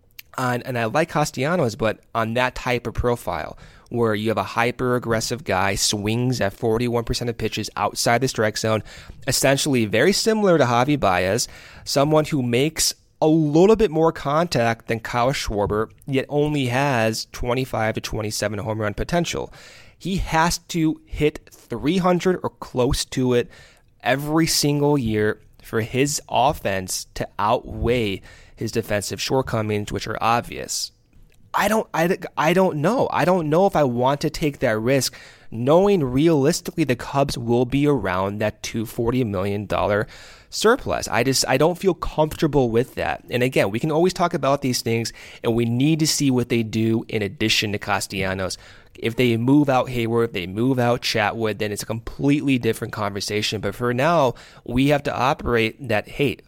on, and I like Castellanos, but on that type of profile where you have a hyper-aggressive guy, swings at 41% of pitches outside the strike zone, essentially very similar to Javi Baez, someone who makes a little bit more contact than Kyle Schwarber, yet only has 25 to 27 home run potential. He has to hit 300 or close to it every single year for his offense to outweigh his defensive shortcomings, which are obvious. I don't know. I don't know if I want to take that risk, knowing realistically the Cubs will be around that $240 million surplus. I don't feel comfortable with that. And again, we can always talk about these things, and we need to see what they do in addition to Castellanos. If they move out Hayward, if they move out Chatwood, then it's a completely different conversation. But for now, we have to operate that, hey,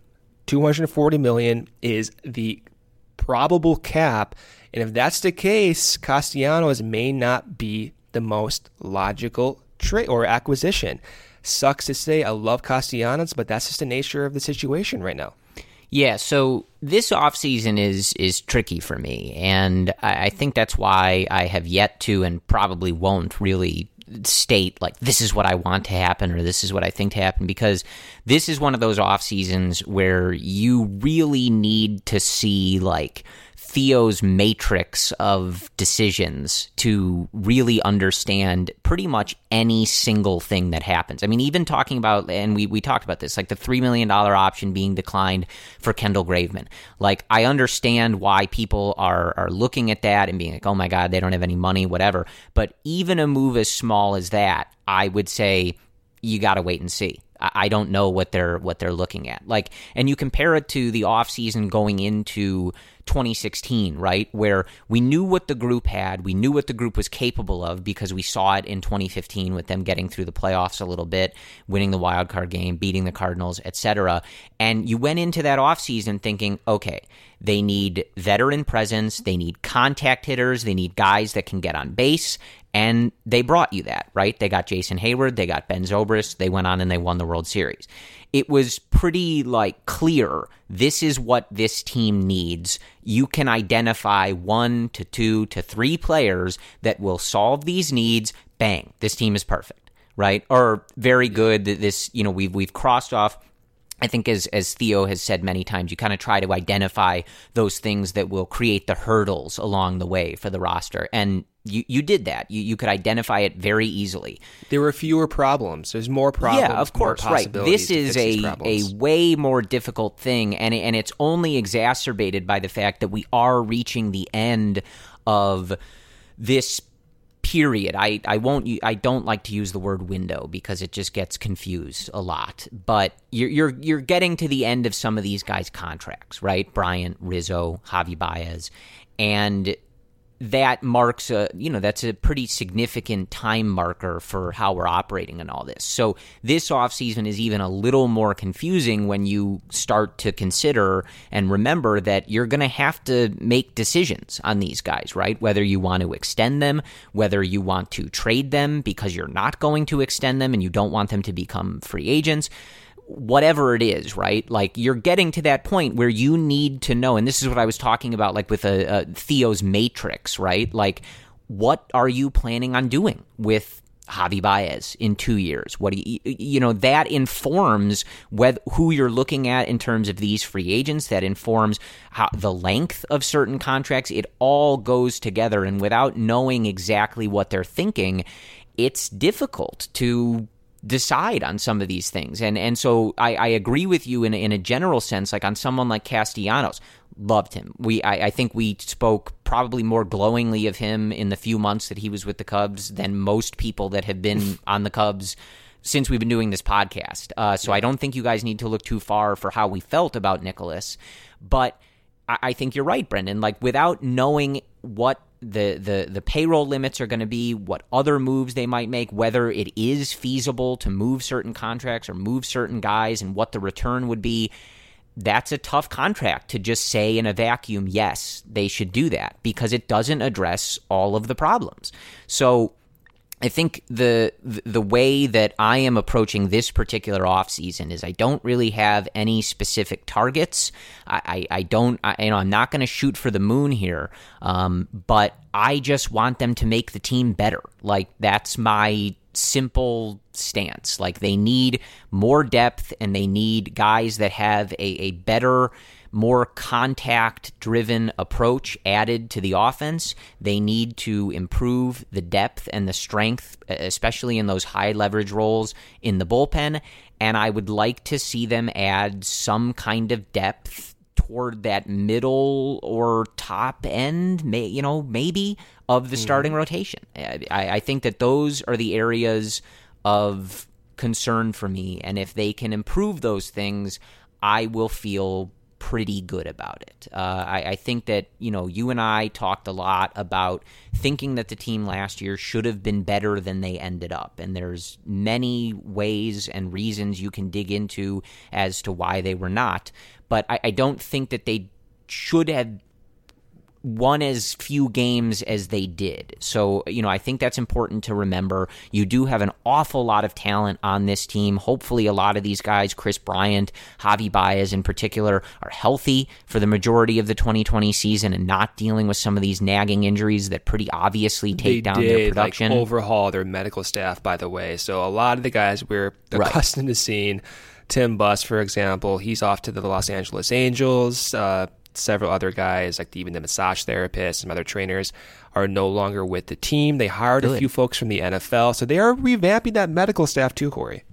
$240 million is the probable cap. And if that's the case, Castellanos may not be the most logical trade or acquisition. Sucks to say, I love Castellanos, but that's just the nature of the situation right now. Yeah, so this offseason is tricky for me, and I think that's why I have yet to and probably won't really state, like, this is what I want to happen or this is what I think to happen, because this is one of those off seasons where you really need to see, like, Theo's matrix of decisions to really understand pretty much any single thing that happens. I mean, even talking about, and we talked about this, like the $3 million option being declined for Kendall Graveman. Like, I understand why people are looking at that and being like, oh my God, they don't have any money, whatever. But even a move as small as that, I would say you got to wait and see. I don't know what they're looking at. Like, and you compare it to the offseason going into 2016, right, where we knew what the group had, we knew what the group was capable of because we saw it in 2015 with them getting through the playoffs a little bit, winning the wild card game, beating the Cardinals, etc. And you went into that offseason thinking, okay, they need veteran presence, they need contact hitters, they need guys that can get on base, and they brought you that, right? They got Jason Hayward, they got Ben Zobrist, they went on and they won the World Series. It was pretty clear, this is what this team needs. You can identify 1 to 2 to 3 players that will solve these needs. Bang, this team is perfect, right? Or very good. This, we've crossed off. I think as Theo has said many times, you kind of try to identify those things that will create the hurdles along the way for the roster. And you did that. You could identify it very easily. There were fewer problems. There's more problems. Yeah, of course, right. This is a way more difficult thing, and it's only exacerbated by the fact that we are reaching the end of this period. I don't like to use the word window because it just gets confused a lot. But you're getting to the end of some of these guys' contracts, right? Bryant, Rizzo, Javi Baez, and that marks that's a pretty significant time marker for how we're operating in all this. So this offseason is even a little more confusing when you start to consider and remember that you're going to have to make decisions on these guys, right? Whether you want to extend them, whether you want to trade them because you're not going to extend them and you don't want them to become free agents. Whatever it is, right? Like, you're getting to that point where you need to know, and this is what I was talking about, like with Theo's matrix, right? Like, what are you planning on doing with Javi Baez in 2 years? What do that informs who you're looking at in terms of these free agents. That informs the length of certain contracts. It all goes together, and without knowing exactly what they're thinking, it's difficult to decide on some of these things. And so I agree with you in a general sense, like on someone like Castellanos. Loved him. I think we spoke probably more glowingly of him in the few months that he was with the Cubs than most people that have been on the Cubs since we've been doing this podcast. So I don't think you guys need to look too far for how we felt about Nicholas. But I think you're right, Brendan. Like, without knowing what the payroll limits are going to be, what other moves they might make, whether it is feasible to move certain contracts or move certain guys, and what the return would be, that's a tough contract to just say in a vacuum, yes, they should do that, because it doesn't address all of the problems. So I think the way that I am approaching this particular offseason is I don't really have any specific targets. I'm not going to shoot for the moon here, but I just want them to make the team better. Like, that's my simple stance. Like, they need more depth, and they need guys that have a better, more contact-driven approach added to the offense. They need to improve the depth and the strength, especially in those high-leverage roles in the bullpen, and I would like to see them add some kind of depth toward that middle or top end, maybe, of the starting rotation. I think that those are the areas of concern for me, and if they can improve those things, I will feel pretty good about it. I think that, you and I talked a lot about thinking that the team last year should have been better than they ended up. And there's many ways and reasons you can dig into as to why they were not. But I don't think that they should have won as few games as they did. So, I think that's important to remember. You do have an awful lot of talent on this team. Hopefully a lot of these guys, Chris Bryant, Javi Baez in particular, are healthy for the majority of the 2020 season and not dealing with some of these nagging injuries that pretty obviously take down their production. Overhaul their medical staff, by the way. So a lot of the guys we're accustomed to seeing, Tim Buss, for example, he's off to the Los Angeles Angels. Several other guys, like even the massage therapists, some other trainers, are no longer with the team. They hired a few folks from the NFL, so they are revamping that medical staff too, Corey.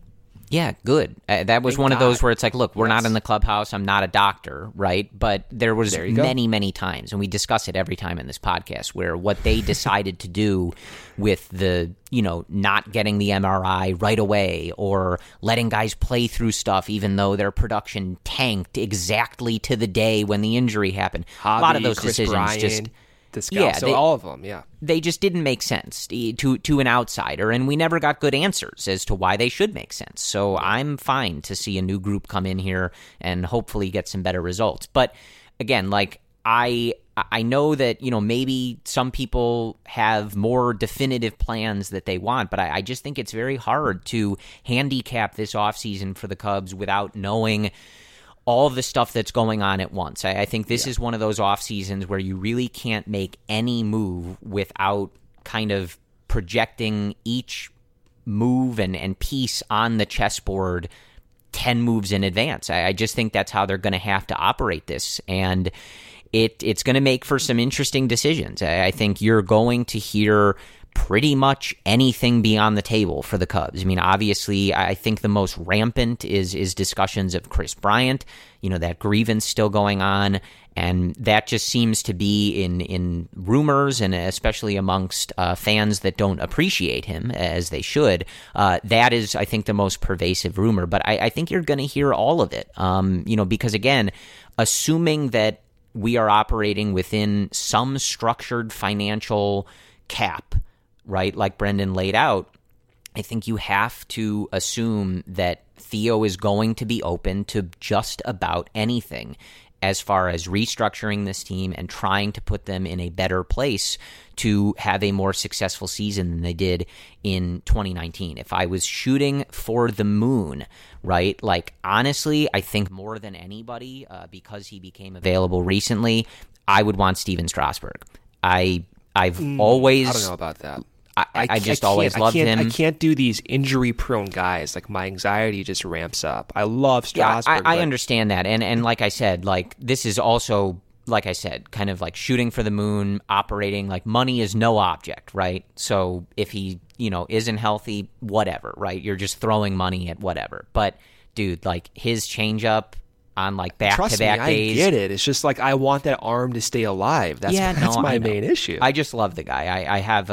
Yeah, good. That was Thank one of God. those where it's like, look, we're Yes. not in the clubhouse. I'm not a doctor, right? But there was There you go. many times, and we discuss it every time in this podcast, where what they decided to do with the, not getting the MRI right away or letting guys play through stuff even though their production tanked exactly to the day when the injury happened. Javi, A lot of those Chris decisions Bryant, just... Descalso, all of them, yeah. They just didn't make sense to an outsider, and we never got good answers as to why they should make sense. So I'm fine to see a new group come in here and hopefully get some better results. But again, like I know that, maybe some people have more definitive plans that they want, but I just think it's very hard to handicap this offseason for the Cubs without knowing all the stuff that's going on at once. I think this is one of those off seasons where you really can't make any move without kind of projecting each move and piece on the chessboard 10 moves in advance. I just think that's how they're going to have to operate this. And it's going to make for some interesting decisions. I think you're going to hear pretty much anything be on the table for the Cubs. I mean, obviously, I think the most rampant is discussions of Chris Bryant, that grievance still going on, and that just seems to be in rumors, and especially amongst fans that don't appreciate him as they should. That is, I think, the most pervasive rumor, but I think you're going to hear all of it, because, again, assuming that we are operating within some structured financial cap, right, like Brendan laid out, I think you have to assume that Theo is going to be open to just about anything as far as restructuring this team and trying to put them in a better place to have a more successful season than they did in 2019. If I was shooting for the moon, right, like honestly, I think more than anybody, because he became available recently, I would want Steven Strasburg. I've always... I don't know about that. I just always loved him. I can't do these injury-prone guys. Like, my anxiety just ramps up. I love Strasburg. I understand that. And like I said, like, this is also, like I said, kind of like shooting for the moon, operating, like, money is no object, right? So if he, isn't healthy, whatever, right? You're just throwing money at whatever. But, dude, like, his changeup on, like, back-to-back days. I get it. It's just like I want that arm to stay alive. That's my main issue. I just love the guy. I have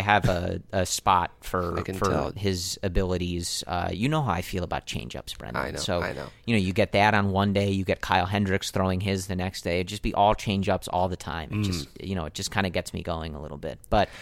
a spot for his abilities. You know how I feel about changeups, Brendan. I know. So I know. You get that on one day, you get Kyle Hendricks throwing his the next day. It'd just be all changeups all the time. It just kind of gets me going a little bit. But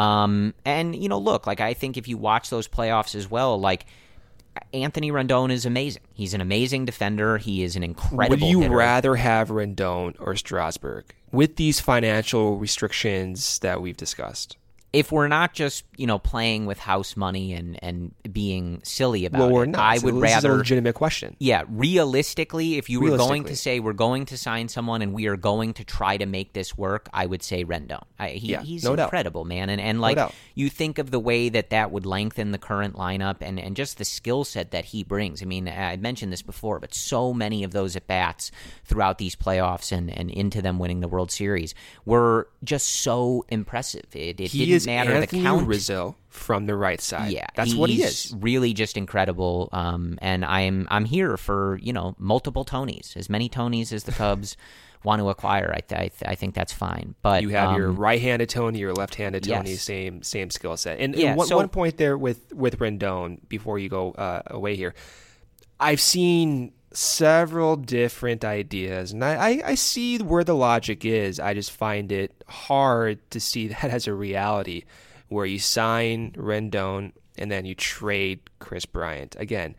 look, like I think if you watch those playoffs as well, like Anthony Rendon is amazing. He's an amazing defender. He is an incredible Would you hitter. rather have Rendon or Strasburg with these financial restrictions that we've discussed? If we're not just, playing with house money and being silly about we're it, not. I would rather... This is a legitimate question. Yeah, realistically, if you were going to say we're going to sign someone and we are going to try to make this work, I would say Rendon. He's no incredible, man. And like, you think of the way that would lengthen the current lineup and just the skill set that he brings. I mean, I mentioned this before, but so many of those at-bats throughout these playoffs and into them winning the World Series were just so impressive. It didn't matter Anthony the count. Rizzo from the right side. Yeah, that's what he is. Really, just incredible. And I'm here for multiple Tonys, as many Tonys as the Cubs want to acquire. I think that's fine. But you have your right-handed Tony, your left-handed Tony, yes. same skill set. And Yeah, one point there with Rendon before you go away here, I've seen several different ideas, and I see where the logic is. I just find it hard to see that as a reality, where you sign Rendon and then you trade Chris Bryant. Again,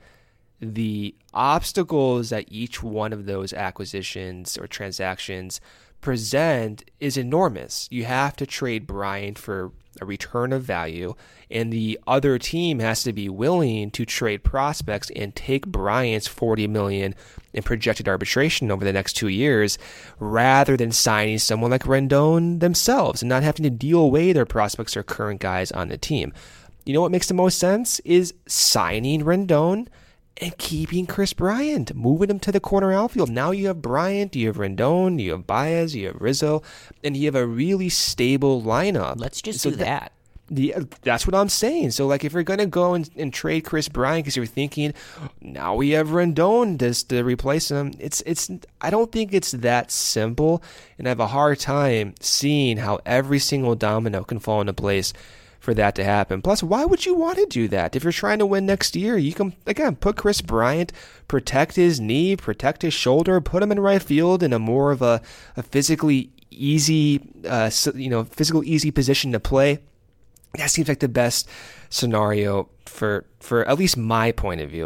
the obstacles that each one of those acquisitions or transactions present is enormous. You have to trade Bryant for a return of value, and the other team has to be willing to trade prospects and take Bryant's $40 million in projected arbitration over the next 2 years, rather than signing someone like Rendon themselves and not having to deal away their prospects or current guys on the team. You know what makes the most sense is signing Rendon and keeping Chris Bryant, moving him to the corner outfield. Now you have Bryant, you have Rendon, you have Baez, you have Rizzo, and you have a really stable lineup. Let's just do that. That's what I'm saying. So, like, if you're going to go and trade Kris Bryant because you're thinking, now we have Rendon to replace him, I don't think it's that simple, and I have a hard time seeing how every single domino can fall into place for that to happen. Plus, why would you want to do that? If you're trying to win next year, you can, again, put Kris Bryant, protect his knee, protect his shoulder, put him in right field in a more of a physically easy, easy position to play. That seems like the best scenario for at least my point of view.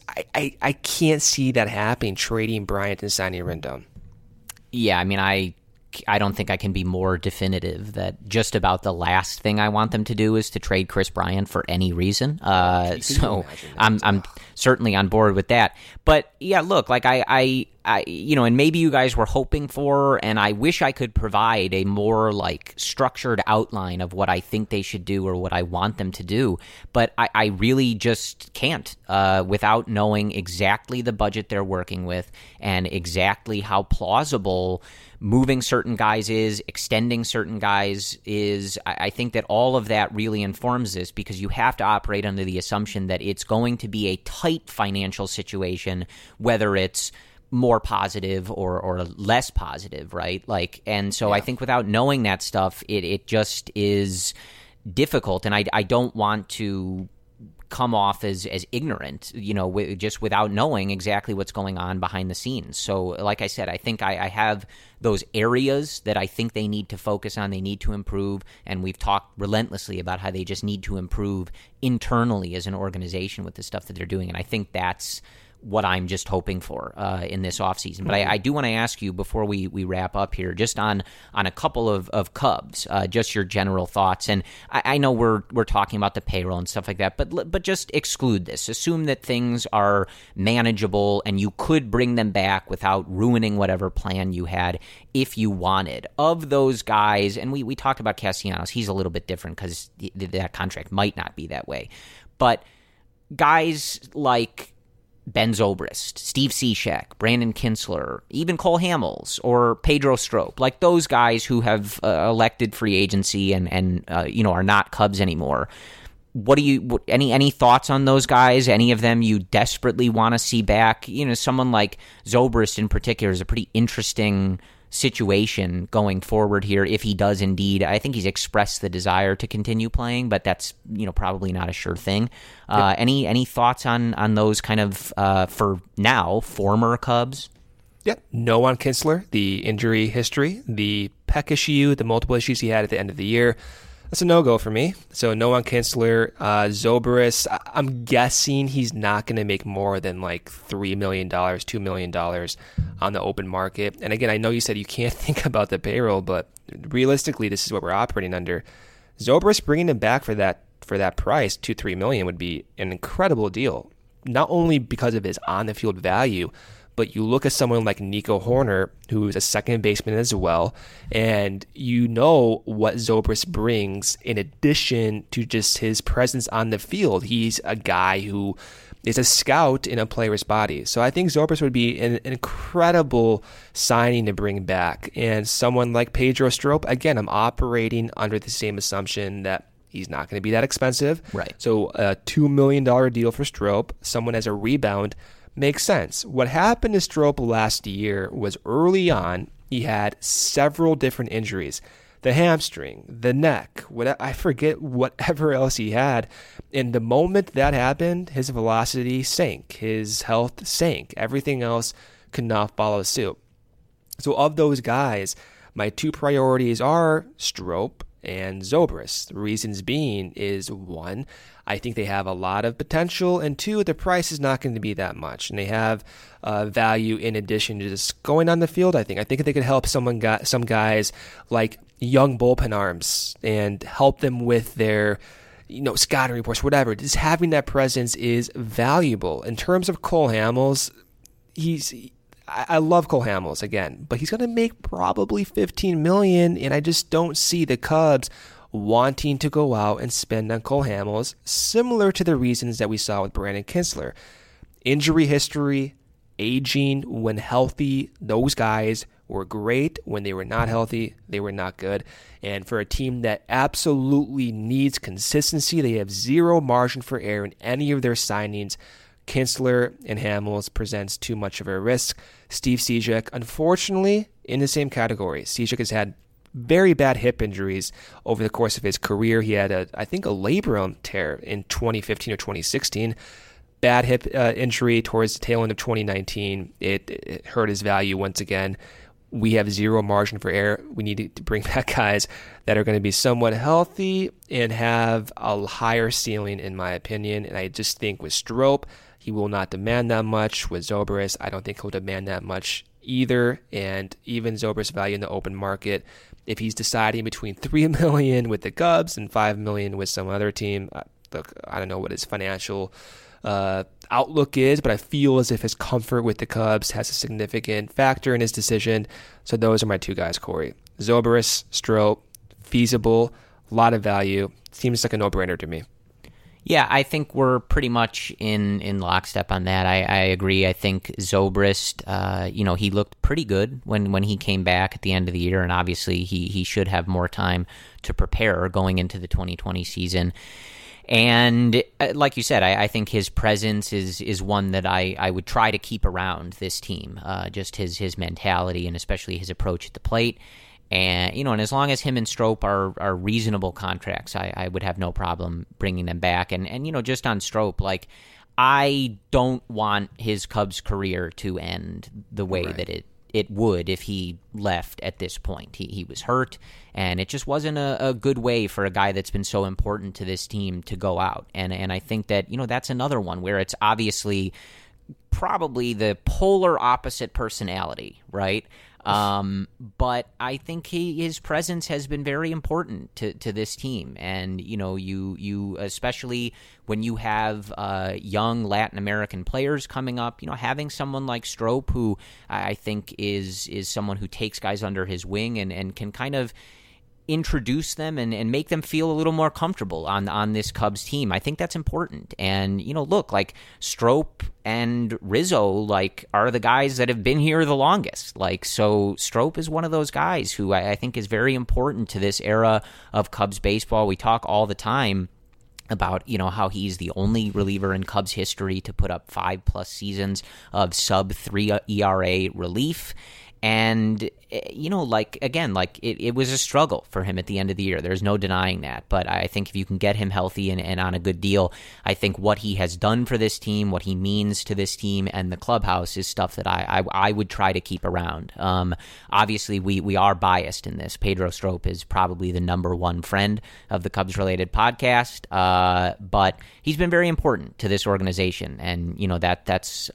I can't see that happening, trading Bryant and signing Rendon. Yeah, I mean, I don't think I can be more definitive that just about the last thing I want them to do is to trade Kris Bryant for any reason. So I'm certainly on board with that. But yeah, look, like I and maybe you guys were hoping for, and I wish I could provide a more like structured outline of what I think they should do or what I want them to do. But I really just can't without knowing exactly the budget they're working with and exactly how plausible moving certain guys is, extending certain guys is. I think that all of that really informs this, because you have to operate under the assumption that it's going to be a tight financial situation, whether it's more positive or less positive, right? Like, and so I think without knowing that stuff, it just is difficult, and I don't want to come off as ignorant, just without knowing exactly what's going on behind the scenes. So like I said, I think I have those areas that I think they need to focus on, they need to improve, and we've talked relentlessly about how they just need to improve internally as an organization with the stuff that they're doing, and I think that's what I'm just hoping for in this offseason. But I do want to ask you before we wrap up here, just on a couple of Cubs, just your general thoughts. And I know we're talking about the payroll and stuff like that, but just exclude this. Assume that things are manageable and you could bring them back without ruining whatever plan you had if you wanted. Of those guys, and we talked about Castellanos, he's a little bit different because that contract might not be that way. But guys like Ben Zobrist, Steve Cishek, Brandon Kintzler, even Cole Hamels or Pedro Strop, like those guys who have elected free agency and are not Cubs anymore. Any thoughts on those guys? Any of them you desperately want to see back? Someone like Zobrist in particular is a pretty interesting situation going forward here if he does indeed. I think he's expressed the desire to continue playing, but that's probably not a sure thing. Yep. Any thoughts on those kind of for now former Cubs? Yep. No on Kintzler, the injury history, the pec issue, the multiple issues he had at the end of the year. That's a no-go for me. So no on Kintzler. Zobrist, I'm guessing he's not going to make more than like $3 million, $2 million on the open market. And again, I know you said you can't think about the payroll, but realistically, this is what we're operating under. Zobrist bringing him back for that price, $2-3 million, would be an incredible deal. Not only because of his on-the-field value, but you look at someone like Nico Hoerner, who is a second baseman as well, and you know what Zobrist brings in addition to just his presence on the field. He's a guy who is a scout in a player's body. So I think Zobrist would be an incredible signing to bring back. And someone like Pedro Strop, again, I'm operating under the same assumption that he's not going to be that expensive. Right. So a $2 million deal for Strop, someone as a rebound, makes sense. What happened to Strop last year was early on, he had several different injuries. The hamstring, the neck, I forget whatever else he had. And the moment that happened, his velocity sank. His health sank. Everything else could not follow suit. So of those guys, my two priorities are Strop and Zobrist. The reasons being is, one, I think they have a lot of potential, and two, the price is not going to be that much, and they have value in addition to just going on the field. I think they could help some guys like young bullpen arms and help them with their scouting reports, whatever. Just having that presence is valuable. In terms of Cole Hamels, I love Cole Hamels again, but he's going to make probably $15 million, and I just don't see the Cubs wanting to go out and spend on Cole Hamels, similar to the reasons that we saw with Brandon Kintzler. Injury history, aging, when healthy, those guys were great. When they were not healthy, they were not good. And for a team that absolutely needs consistency, they have zero margin for error in any of their signings. Kinsler and Hamels presents too much of a risk. Steve Cishek, unfortunately, in the same category. Cishek has had very bad hip injuries over the course of his career. He had, a labrum tear in 2015 or 2016. Bad hip injury towards the tail end of 2019. It hurt his value once again. We have zero margin for error. We need to bring back guys that are going to be somewhat healthy and have a higher ceiling, in my opinion. And I just think with Strop, he will not demand that much. With Zobrist, I don't think he'll demand that much either. And even Zobrist's value in the open market, if he's deciding between $3 million with the Cubs and $5 million with some other team, look, I don't know what his financial outlook is, but I feel as if his comfort with the Cubs has a significant factor in his decision. So those are my two guys, Corey. Zobrist, Strop, feasible, a lot of value. Seems like a no-brainer to me. Yeah, I think we're pretty much in lockstep on that. I agree. I think Zobrist, he looked pretty good when he came back at the end of the year, and obviously he should have more time to prepare going into the 2020 season. And like you said, I think his presence is one that I would try to keep around this team, just his mentality and especially his approach at the plate. And, and as long as him and Strop are reasonable contracts, I would have no problem bringing them back. And just on Strop, like, I don't want his Cubs career to end the way that it would if he left at this point. He was hurt, and it just wasn't a good way for a guy that's been so important to this team to go out. And I think that, that's another one where it's obviously probably the polar opposite personality, right? But I think his presence has been very important to this team. And, you especially when you have young Latin American players coming up, having someone like Strop, who I think is someone who takes guys under his wing and can kind of introduce them and make them feel a little more comfortable on this Cubs team. I think that's important. And, look, like Strop and Rizzo, like, are the guys that have been here the longest. Like, so Strop is one of those guys who I think is very important to this era of Cubs baseball. We talk all the time about, how he's the only reliever in Cubs history to put up 5+ seasons of sub-3 ERA relief. And, it was a struggle for him at the end of the year. There's no denying that. But I think if you can get him healthy and on a good deal, I think what he has done for this team, what he means to this team and the clubhouse is stuff that I would try to keep around. Obviously, we are biased in this. Pedro Strop is probably the number one friend of the Cubs-related podcast, but he's been very important to this organization. And, that's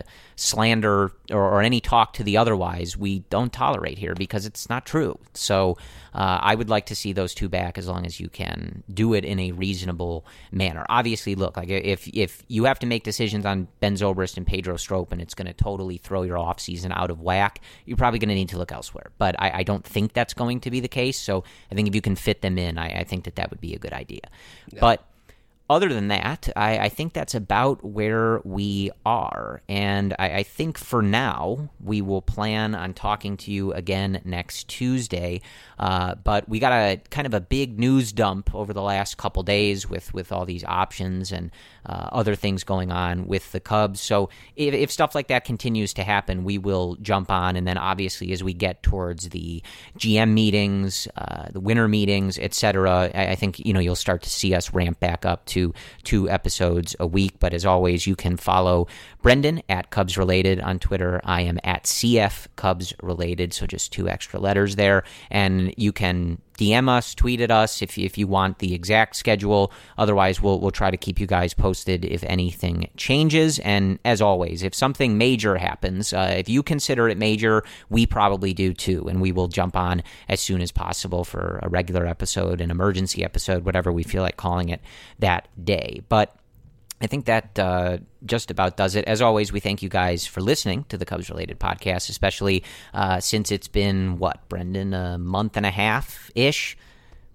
slander or any talk to the otherwise we don't tolerate here because it's not true. So I would like to see those two back as long as you can do it in a reasonable manner. Obviously, look, like if you have to make decisions on Ben Zobrist and Pedro Strop and it's going to totally throw your offseason out of whack, you're probably going to need to look elsewhere. But I don't think that's going to be the case. So I think if you can fit them in, I think that would be a good idea. Yeah. But other than that, I think that's about where we are. And I think for now, we will plan on talking to you again next Tuesday. But we got a kind of a big news dump over the last couple days with all these options and other things going on with the Cubs. So if stuff like that continues to happen, we will jump on. And then obviously as we get towards the GM meetings, the winter meetings, etc., I think you'll start to see us ramp back up to 2 episodes a week. But as always, you can follow Brendan at Cubs Related on Twitter. I am at CF Cubs Related, so just 2 extra letters there. And you can DM us, tweet at us if you want the exact schedule. Otherwise, we'll try to keep you guys posted if anything changes. And as always, if something major happens, if you consider it major, we probably do too. And we will jump on as soon as possible for a regular episode, an emergency episode, whatever we feel like calling it that day. But I think that just about does it. As always, we thank you guys for listening to the Cubs-related podcast, especially since it's been, Brendan, a month and a half-ish?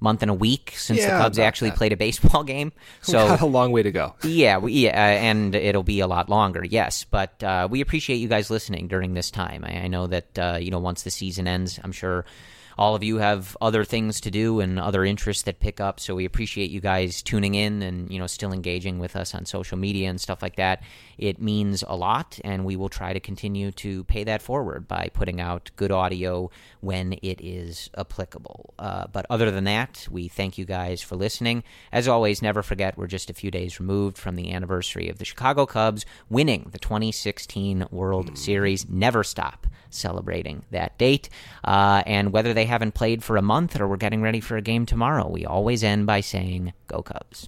month and a week since the Yeah, Cubs about actually that. played a baseball game. So We got a long way to go. Yeah, and it'll be a lot longer, yes. But we appreciate you guys listening during this time. I know that, once the season ends, I'm sure all of you have other things to do and other interests that pick up, so we appreciate you guys tuning in and, still engaging with us on social media and stuff like that. It means a lot, and we will try to continue to pay that forward by putting out good audio when it is applicable. But other than that, we thank you guys for listening. As always, never forget we're just a few days removed from the anniversary of the Chicago Cubs winning the 2016 World Series. Never stop celebrating that date. And whether they haven't played for a month or we're getting ready for a game tomorrow, we always end by saying, Go Cubs.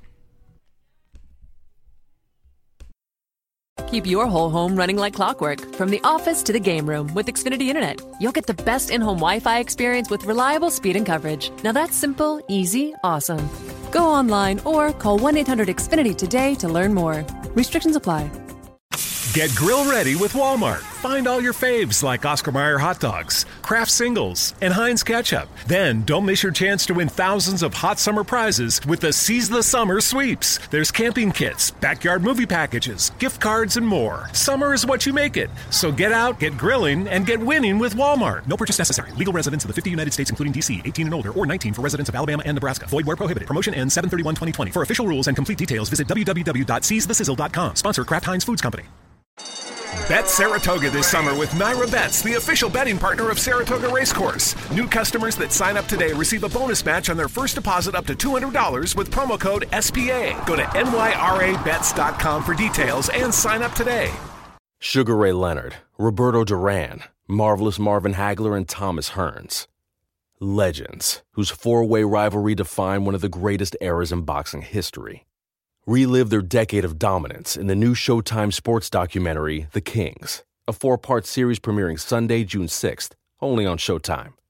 Keep your whole home running like clockwork, from the office to the game room with Xfinity Internet. You'll get the best in-home Wi-Fi experience with reliable speed and coverage. Now that's simple, easy, awesome. Go online or call 1-800-XFINITY today to learn more. Restrictions apply. Get grill ready with Walmart. Find all your faves like Oscar Mayer hot dogs, Kraft singles, and Heinz ketchup. Then don't miss your chance to win thousands of hot summer prizes with the Seize the Summer sweeps. There's camping kits, backyard movie packages, gift cards, and more. Summer is what you make it. So get out, get grilling, and get winning with Walmart. No purchase necessary. Legal residents of the 50 United States, including D.C., 18 and older, or 19 for residents of Alabama and Nebraska. Void where prohibited. Promotion ends 7/31/2020. For official rules and complete details, visit www.seizethesizzle.com. Sponsor Kraft Heinz Foods Company. Bet Saratoga this summer with Myra Betts, the official betting partner of Saratoga Racecourse. New customers that sign up today receive a bonus match on their first deposit up to $200 with promo code SPA. Go to nyrabets.com for details and sign up today. Sugar Ray Leonard, Roberto Duran, Marvelous Marvin Hagler, and Thomas Hearns. Legends, whose four-way rivalry defined one of the greatest eras in boxing history. Relive their decade of dominance in the new Showtime sports documentary, The Kings, a 4-part series premiering Sunday, June 6th, only on Showtime.